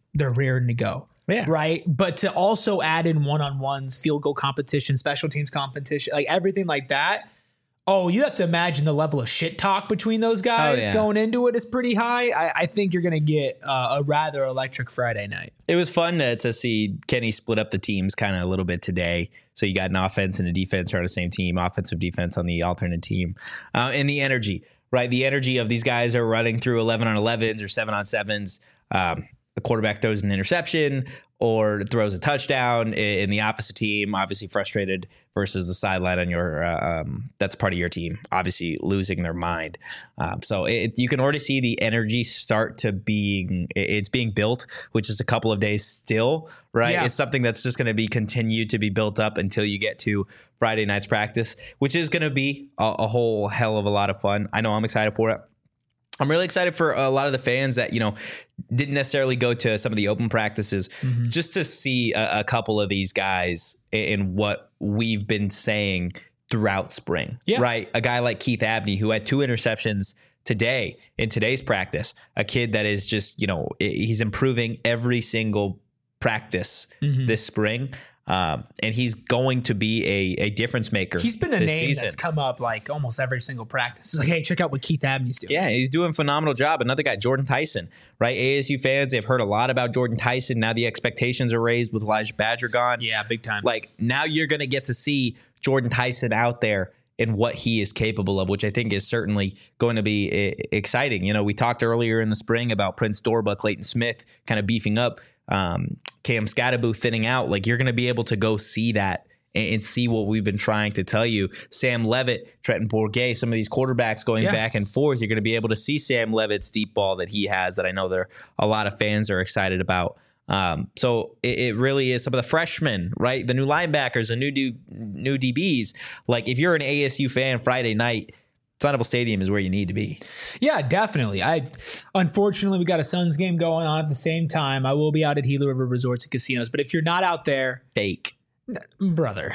they're raring to go. Yeah. Right. But to also add in one-on-ones, field goal competition, special teams competition, like everything like that. Oh, you have to imagine the level of shit talk between those guys Oh, yeah. going into it is pretty high. I, I think you're going to get uh, a rather electric Friday night. It was fun to, to see Kenny split up the teams kind of a little bit today. So you got an offense and a defense are on the same team, offensive defense on the alternate team, uh, and the energy, right? The energy of these guys are running through eleven on elevens or seven on sevens. Um, the quarterback throws an interception or throws a touchdown in the opposite team, obviously frustrated versus the sideline on your, uh, um, that's part of your team, obviously losing their mind. Um, so it, you can already see the energy start to being, it's being built, which is a couple of days still, right? Yeah. It's something that's just going to be continued to be built up until you get to Friday night's practice, which is going to be a, a whole hell of a lot of fun. I know I'm excited for it. I'm really excited for a lot of the fans that, you know, didn't necessarily go to some of the open practices mm-hmm. just to see a, a couple of these guys in what we've been saying throughout spring, yeah. right? A guy like Keith Abney, who had two interceptions today in today's practice, a kid that is just, you know, he's improving every single practice mm-hmm. this spring. Um, and he's going to be a, a difference maker. He's been a this name season. that's come up like almost every single practice. It's like, hey, check out what Keith Abney's doing. Yeah, he's doing a phenomenal job. Another guy, Jordan Tyson, right? A S U fans, they've heard a lot about Jordan Tyson. Now the expectations are raised with Elijah Badger gone. Yeah, big time. Like now you're going to get to see Jordan Tyson out there and what he is capable of, which I think is certainly going to be uh, exciting. You know, we talked earlier in the spring about Prince Dorba, Clayton Smith kind of beefing up. Um, Cam Scatterbo thinning out. Like you're going to be able to go see that and, and see what we've been trying to tell you. Sam Levitt, Trenton Bourget, some of these quarterbacks going yeah. back and forth. You're going to be able to see Sam Levitt's deep ball that he has that I know there a lot of fans are excited about. Um, so it, it really is some of the freshmen, right? The new linebackers, the new D, new D Bs. Like if you're an A S U fan Friday night, Sun Stadium is where you need to be. Yeah, definitely. I unfortunately we got a Suns game going on at the same time. I will be out at Gila River Resorts and Casinos, but if you're not out there, fake, brother.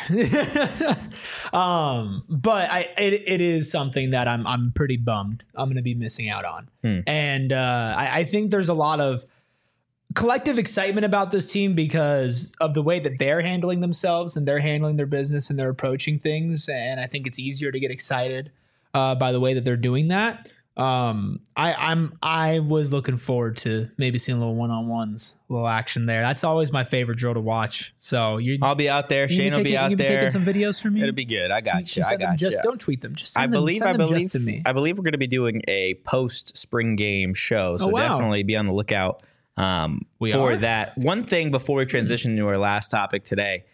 um, but I it, it is something that I'm I'm pretty bummed I'm going to be missing out on, hmm. and uh, I, I think there's a lot of collective excitement about this team because of the way that they're handling themselves and they're handling their business and they're approaching things, and I think it's easier to get excited Uh, by the way that they're doing that. Um, I, I'm I was looking forward to maybe seeing a little one-on-ones, a little action there. That's always my favorite drill to watch. So you, I'll be out there. Shane will be out you there. Taking some videos for me. It'll be good. I got Just you. I send them got just, you. Don't tweet them. Just send I them, believe. send I them believe. just to me. I believe we're going to be doing a post spring game show. So oh, wow. definitely be on the lookout um, we for are? that. One thing before we transition to our last topic today,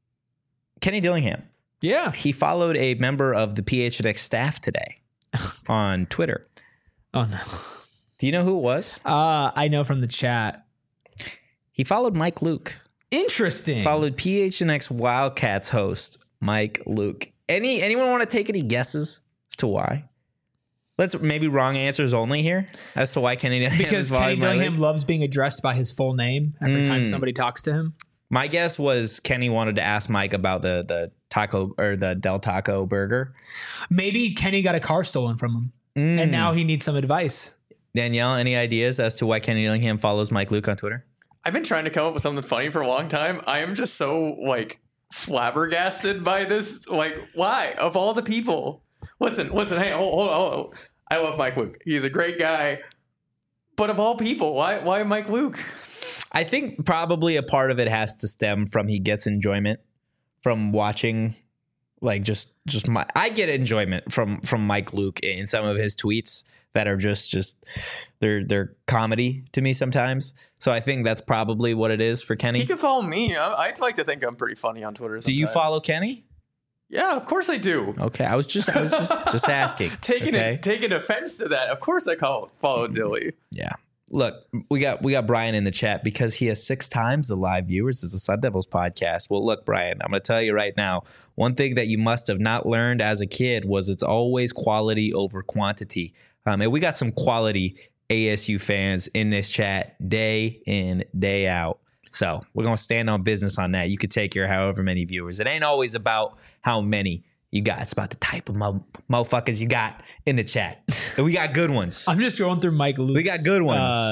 Kenny Dillingham. Yeah, he followed a member of the P H N X staff today on Twitter. Oh no! Do you know who it was? Uh, I know from the chat. He followed Mike Luke. Interesting. Followed P H N X Wildcats host Mike Luke. Any anyone want to take any guesses as to why? Let's maybe wrong answers only here as to why Kenny Dillingham because is Kenny Dillingham Luke. loves being addressed by his full name every mm. time somebody talks to him. My guess was Kenny wanted to ask Mike about the the taco or the Del Taco burger. Maybe Kenny got a car stolen from him, mm. and now he needs some advice. Danielle, any ideas as to why Kenny Dillingham follows Mike Luke on Twitter? I've been trying to come up with something funny for a long time. I am just so like flabbergasted by this. Like, why of all the people? Listen, listen. Hey, hold, hold, hold. I love Mike Luke. He's a great guy. But of all people, why why Mike Luke? I think probably a part of it has to stem from he gets enjoyment from watching, like just just my I get enjoyment from from Mike Luke in some of his tweets that are just just they're they're comedy to me sometimes. So I think that's probably what it is for Kenny. He can follow me. I'd like to think I'm pretty funny on Twitter sometimes. Do you follow Kenny? Yeah, of course I do. Okay, I was just I was just just asking. taking okay? it, taking offense to that. Of course I call follow Dilly. Yeah. Look, we got we got Brian in the chat because he has six times the live viewers as a Sun Devils podcast. Well, look, Brian, I'm going to tell you right now, one thing that you must have not learned as a kid was it's always quality over quantity. Um, and we got some quality A S U fans in this chat day in, day out. So we're going to stand on business on that. You could take your however many viewers. It ain't always about how many you got. It's about the type of mo- motherfuckers you got in the chat. And we got good ones. I'm just going through Mike Luke's We got good ones. Uh,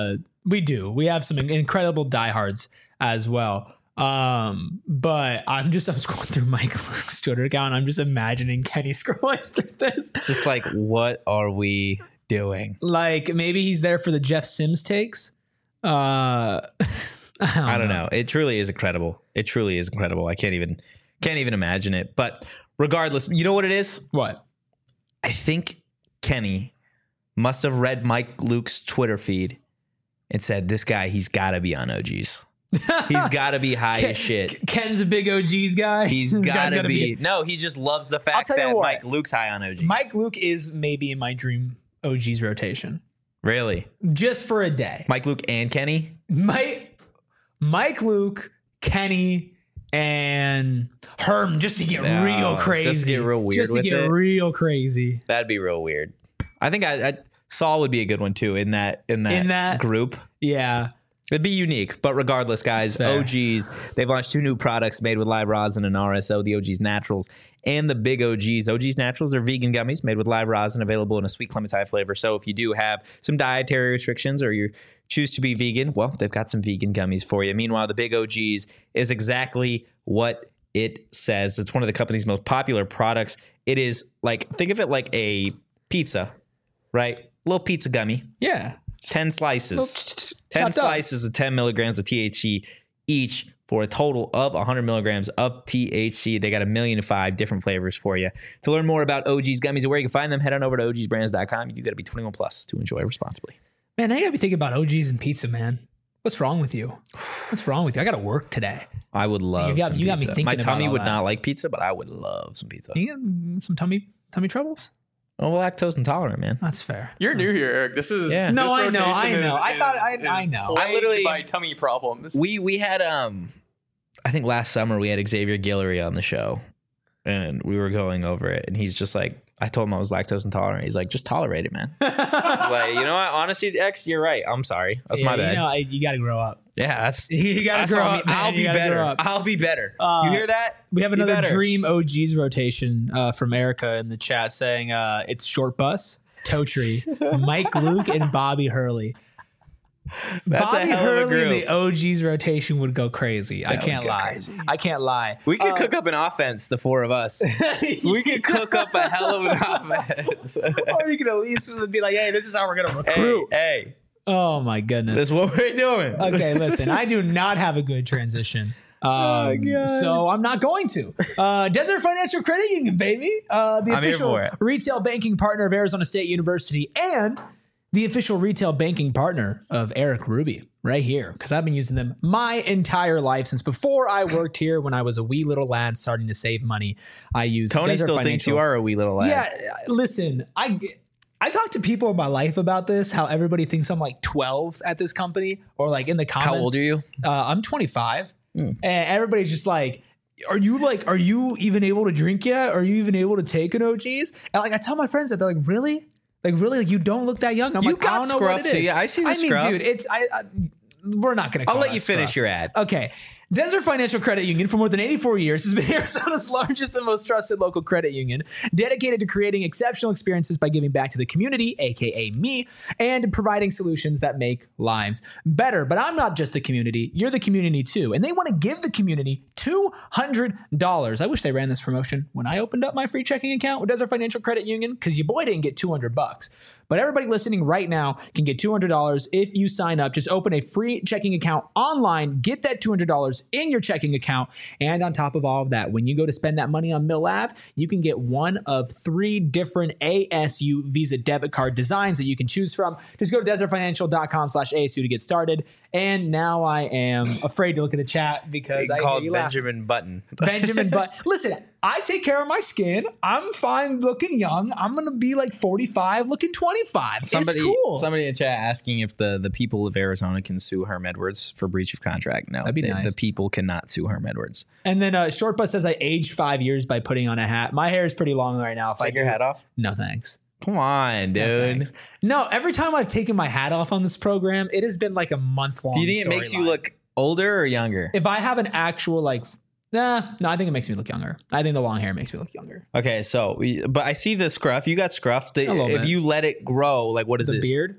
We do. We have some incredible diehards as well. Um, but I'm just I'm scrolling through Mike Luke's Twitter account. I'm just imagining Kenny scrolling through this. Just like, what are we doing? Like maybe he's there for the Jeff Sims takes. Uh, I don't, I don't know. know. It truly is incredible. It truly is incredible. I can't even can't even imagine it. But regardless, you know what it is? What? I think Kenny must have read Mike Luke's Twitter feed and said, "This guy, he's got to be on O Gs. He's got to be high Ken, as shit. Ken's a big O Gs guy. He's This got guy's to gotta be." No, he just loves the fact tell you that what. Mike Luke's high on O Gs. Mike Luke is maybe in my dream O Gs rotation really? just for a day. Mike Luke and Kenny? Mike, Mike Luke, Kenny, and Herm just to get No, real crazy. just to get real weird Just to with get it. real crazy. That'd be real weird. I think I, I Saul would be a good one too in that in that, In that- group. Yeah. It'd be unique, but regardless, guys, That's fair. O Gs, they've launched two new products made with live rosin and R S O, the O Gs Naturals and the Big O Gs. O Gs Naturals are vegan gummies made with live rosin, available in a sweet clementine flavor. So if you do have some dietary restrictions or you choose to be vegan, well, they've got some vegan gummies for you. Meanwhile, the Big O Gs is exactly what it says. It's one of the company's most popular products. It is like, think of it like a pizza, right? Little pizza gummy. Yeah. ten slices. ten Chopped up. slices of ten milligrams of T H C each for a total of one hundred milligrams of T H C. They got a million and five different flavors for you. To learn more about O G's gummies and where you can find them, head on over to O Gs brands dot com. You got to be twenty-one plus to enjoy responsibly. Man, I gotta be thinking about O Gs and pizza, man. What's wrong with you? What's wrong with you? I gotta work today. I would love You got- some you got me pizza. thinking My about tummy all would that. not like pizza, but I would love some pizza. You got some tummy tummy troubles? Oh, well, lactose intolerant, man. That's fair. You're new here, Eric. This is Yeah. this No, I know, I rotation know. is- I thought- I- is- I is know. I plagued literally- by tummy problems. We we had um I think last summer we had Xavier Guillory on the show and we were going over it and he's just like, I told him I was lactose intolerant. He's like, just tolerate it, man. I was like, you know what? Honestly, X, you're right. I'm sorry. That's my Yeah, bad. You know, I- you gotta grow up. yeah, that's You gotta that's grow all me. up. man. I'll You be gotta better. grow up. I'll be better. Uh, you hear that? We have Be another better. dream O Gs rotation uh, from Erica in the chat saying uh, it's Short Bus, Toe Tree, Mike Luke, and Bobby Hurley. That's Bobby a hell of a Hurley in group. the O Gs rotation would go crazy. I That would can't go lie. crazy. I can't lie. We could Uh, cook up an offense, the four of us. we could cook up a hell of an offense. Or you could at least be like, hey, this is how we're gonna hey, recruit. hey, Oh my goodness. that's what we're doing. Okay, listen, I do not have a good transition. Um, Oh, God. so I'm not going to. Uh, Desert Financial Credit Union, baby. Uh, the I'm here official for it. retail banking partner of Arizona State University and the official retail banking partner of Eric Ruby right here. Because I've been using them my entire life since before I worked here when I was a wee little lad starting to save money. I used Tony Desert still thinks Financial. you are a wee little lad. Yeah, listen, I I talk to people in my life about this, how everybody thinks I'm like twelve at this company or like in the comments. How old are you? Uh, I'm twenty-five. Hmm. And everybody's just like, are you like, are you even able to drink yet? Are you even able to take an O Gs? And like, I tell my friends that they're like, really? Like, really? Like, you don't look that young? I'm You like, got I don't know scruff what it too. is. Yeah, I see the I mean, scruff. dude, it's, I, I we're not going to I'll let you finish your ad. Okay. Desert Financial Credit Union for more than eighty-four years has been Arizona's largest and most trusted local credit union, dedicated to creating exceptional experiences by giving back to the community, aka me, and providing solutions that make lives better. But I'm not just the community, you're the community too. And they want to give the community two hundred dollars. I wish they ran this promotion when I opened up my free checking account with Desert Financial Credit Union, because your boy didn't get two hundred bucks. But everybody listening right now can get two hundred dollars if you sign up. Just open a free checking account online, get that two hundred dollars in your checking account. And on top of all of that, when you go to spend that money on Mill Ave, you can get one of three different A S U Visa debit card designs that you can choose from. Just go to desertfinancial.com slash ASU to get started. And now I am afraid to look at the chat because I hear Called you laugh. Benjamin Button. Benjamin, but listen, I take care of my skin. I'm fine looking young. I'm going to be like forty-five looking twenty-five. Somebody, it's cool. somebody in the chat asking if the, the people of Arizona can sue Herm Edwards for breach of contract. No, That'd be the, nice. the people cannot sue Herm Edwards. And then uh, Short Bus says I aged five years by putting on a hat. My hair is pretty long right now. If I Take your do- hat off. No, thanks. Come on, No, dude. thanks. No, every time I've taken my hat off on this program, it has been like a month long. Do you think it makes you look older or younger? If I have an actual like, f- nah, no, I think it makes me look younger. I think the long hair makes me look younger. Okay, so we- but I see the scruff. You got scruff. The- A little if bit. you let it grow, like what is The it? beard.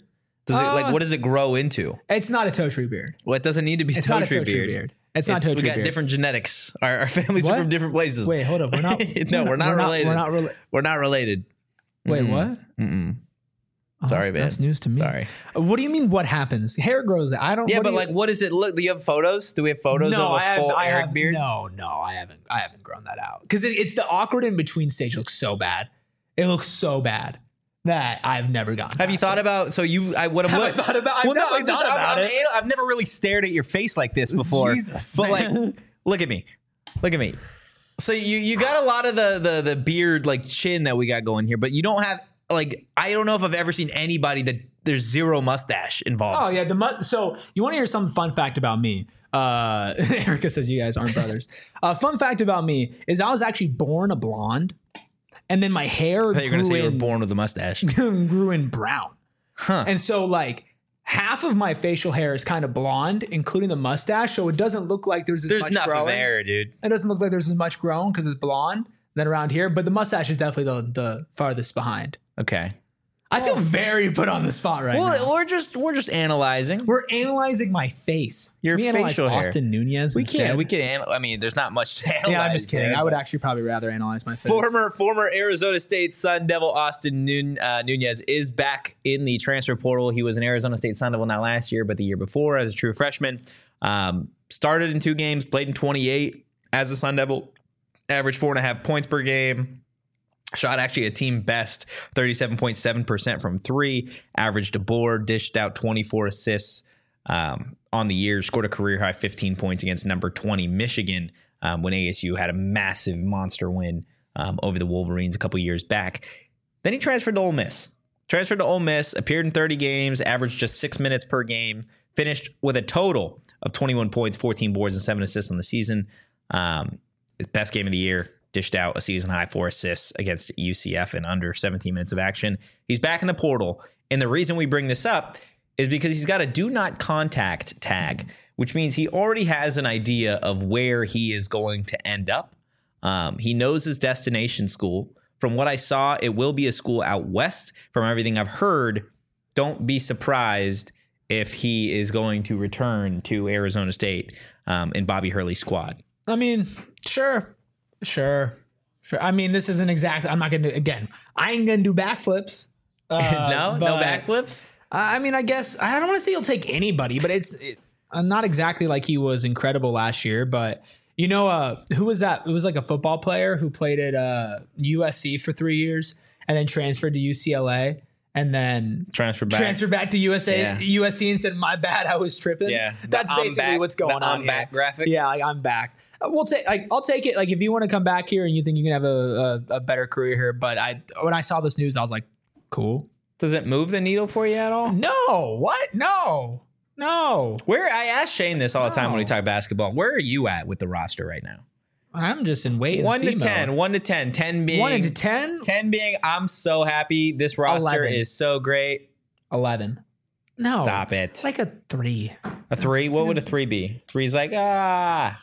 Does it Uh, like what does it grow into? It's not a toe tree beard. Well, it doesn't need to be It's toe not a tree toe tree beard. beard. It's not It's- toe we tree got beard. different genetics. Our, our families What? are from different places. Wait, hold up. We're not. no, we're not related. We're not related. We're not related. Wait, Mm-mm. what? Mm-mm. Oh, Sorry, that's, man. That's news to me. Sorry. Uh, What do you mean? What happens? Hair grows. I don't. Yeah, what but do you- like, what does it look? Do you have photos? Do we have photos no, of a I have, full I Eric have, beard? No, no, I haven't. I haven't grown that out because it, it's the awkward in between stage. It looks so bad. It looks so bad that I've never gotten. Have you past about it. about? So you, I would have. Have I thought about? I've Well, no, definitely I'm just, thought about I'm, it. I'm, I've never really stared at your face like this before. Jesus, but like, man. look at me, look at me. So you you got a lot of the the the beard like chin that we got going here, but you don't have like I don't know if I've ever seen anybody that there's zero mustache involved. Oh yeah, the mu- so you want to hear some fun fact about me? Uh, Erica says you guys aren't brothers. Uh, fun fact about me is I was actually born a blonde, and then my hair I thought you were gonna grew say you were in, born with a mustache. grew in brown. Huh. And so like half of my facial hair is kind of blonde, including the mustache. So it doesn't look like there's as There's much nothing growing. there, dude. It doesn't look like there's as much grown because it's blonde than around here. But the mustache is definitely the the farthest behind. Okay. I feel very put on the spot right Well, now. we're just we're just analyzing. We're analyzing my face. Your Can we analyze facial hair. Austin Nunez. We instead? can we can. Anal- I mean, there's not much to analyze. Yeah, I'm just kidding. there, I would but- actually probably rather analyze my face. Former former Arizona State Sun Devil Austin Nun, uh, Nunez is back in the transfer portal. He was an Arizona State Sun Devil not last year, but the year before as a true freshman. Um, started in two games, played in twenty-eight as a Sun Devil, averaged four and a half points per game. Shot actually a team best thirty-seven point seven percent from three, averaged a board, dished out twenty-four assists um, on the year, scored a career high fifteen points against number twenty Michigan um, when A S U had a massive monster win um, over the Wolverines a couple years back. Then he transferred to Ole Miss. Transferred to Ole Miss, appeared in thirty games, averaged just six minutes per game, finished with a total of twenty-one points, fourteen boards, and seven assists on the season. Um, his best game of the year. Dished out a season high four assists against U C F in under seventeen minutes of action. He's back in the portal. And the reason we bring this up is because he's got a do not contact tag, which means he already has an idea of where he is going to end up. Um, he knows his destination school. From what I saw, it will be a school out west. From everything I've heard, don't be surprised if he is going to return to Arizona State um, in Bobby Hurley's squad. I mean, sure. Sure. Sure. I mean, this isn't exactly, I'm not going to, again, I ain't going to do backflips. Uh, no, no but- backflips. I mean, I guess, I don't want to say he'll take anybody, but it's it, uh, not exactly like he was incredible last year. But, you know, uh, who was that? It was like a football player who played at uh, U S C for three years and then transferred to U C L A and then Transfer back. transferred back to U S A, Yeah. U S C and said, my bad, I was tripping. Yeah. That's The I'm basically back- what's going the on I'm here. back graphic. Yeah, like, I'm back. Uh, We'll take. Like, I'll take it. Like, if you want to come back here and you think you can have a, a, a better career here, but I, when I saw this news, I was like, cool. Does it move the needle for you at all? No, what? No, no. Where I ask Shane this all the time when we No. talk basketball. Where are you at with the roster right now? I'm just in wait and One see to mode. ten. One to ten. Ten being One into ten. ten being I'm so happy. This roster eleven. is so great. Eleven. No, Stop it. Like a three. A three? What would a three be? Three's like ah.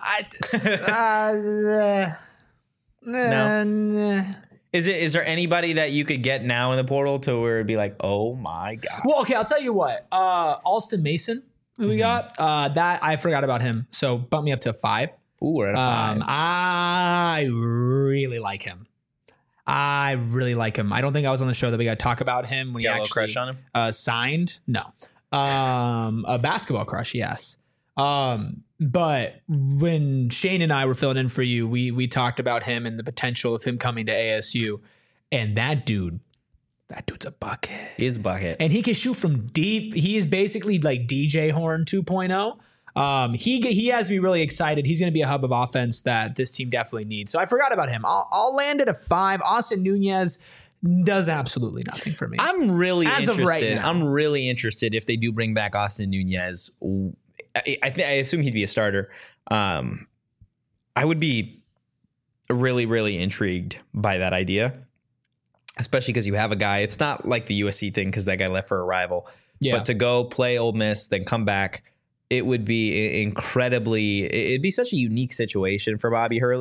I. Uh, No. no. Is it? Is there anybody that you could get now in the portal to where it'd be like, oh my god? Well, okay, I'll tell you what. Uh, Alston Mason, who we got, uh, that I forgot about him. So bump me up to five. Ooh, we're at a five. Um, I really like him. I really like him. I don't think I was on the show that we got to talk about him when you he got a little actually crush on him? uh, signed. No, um, a basketball crush. Yes. Um, but when Shane and I were filling in for you, we we talked about him and the potential of him coming to A S U, and that dude, that dude's a bucket. He's a bucket. And he can shoot from deep. He is basically like D J Horn two point oh. Um, he he has me really excited. He's going to be a hub of offense that this team definitely needs. So I forgot about him. I'll, I'll land at a five. Austin Nunez does absolutely nothing for me. I'm really As of interested. right now. I'm really interested if they do bring back Austin Nunez. I, I think I assume he'd be a starter. Um, I would be really, really intrigued by that idea, especially because you have a guy. It's not like the U S C thing because that guy left for a rival. Yeah. But to go play Ole Miss, then come back, it would be incredibly. It'd be such a unique situation for Bobby Hurley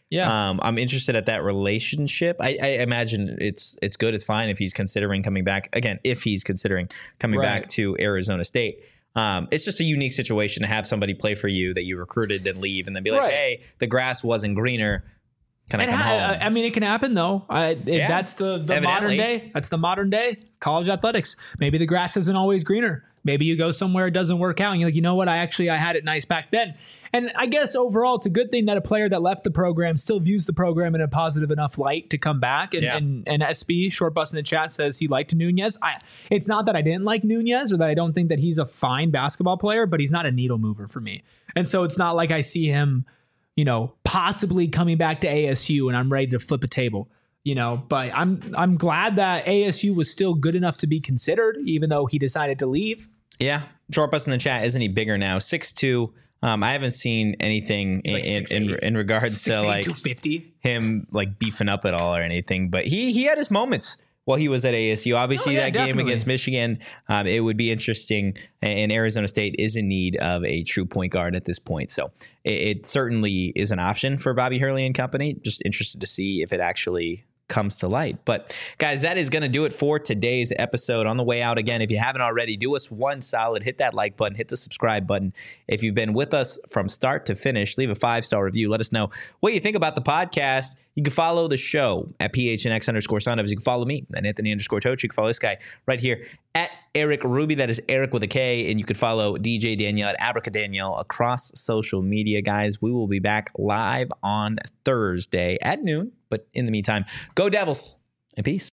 Yeah. Um, I'm interested at that relationship. I, I imagine it's it's good. It's fine if he's considering coming back again. If he's considering coming Right. back to Arizona State. Um, it's just a unique situation to have somebody play for you that you recruited, then leave, and then be like, Right. "Hey, the grass wasn't greener. Can I It come ha- home?" I mean, it can happen though. I, it, Yeah, that's the, the evidently. modern day. That's the modern day college athletics. Maybe the grass isn't always greener. Maybe you go somewhere it doesn't work out, and you're like, you know what? I actually I had it nice back then. And I guess overall, it's a good thing that a player that left the program still views the program in a positive enough light to come back. And Yeah. and, and S B Short Bus in the chat says he liked Nunez. I, it's not that I didn't like Nunez or that I don't think that he's a fine basketball player, but he's not a needle mover for me. And so it's not like I see him, you know, possibly coming back to A S U and I'm ready to flip a table, you know, but I'm I'm glad that A S U was still good enough to be considered, even though he decided to leave. Yeah. Short Bus in the chat. Isn't he bigger now? six two. Um, I haven't seen anything in, like in, six in eight. in regards to like two fifty. him like beefing up at all or anything, but he he had his moments while he was at A S U. Obviously, Oh, yeah, that game definitely. against Michigan, um, it would be interesting. And Arizona State is in need of a true point guard at this point, so it, it certainly is an option for Bobby Hurley and company. Just interested to see if it actually comes to light. But guys, that is going to do it for today's episode. On the way out, again, if you haven't already, do us one solid, hit that like button, hit the subscribe button. If you've been with us from start to finish, leave a five-star review. Let us know what you think about the podcast. You can follow the show at P H N X underscore Soundovs. You can follow me at Anthony underscore Toach. You can follow this guy right here at Eric Ruby. That is Eric with a K. And you can follow D J Danielle at Abraca Danielle across social media, guys. We will be back live on Thursday at noon. But in the meantime, go Devils and peace.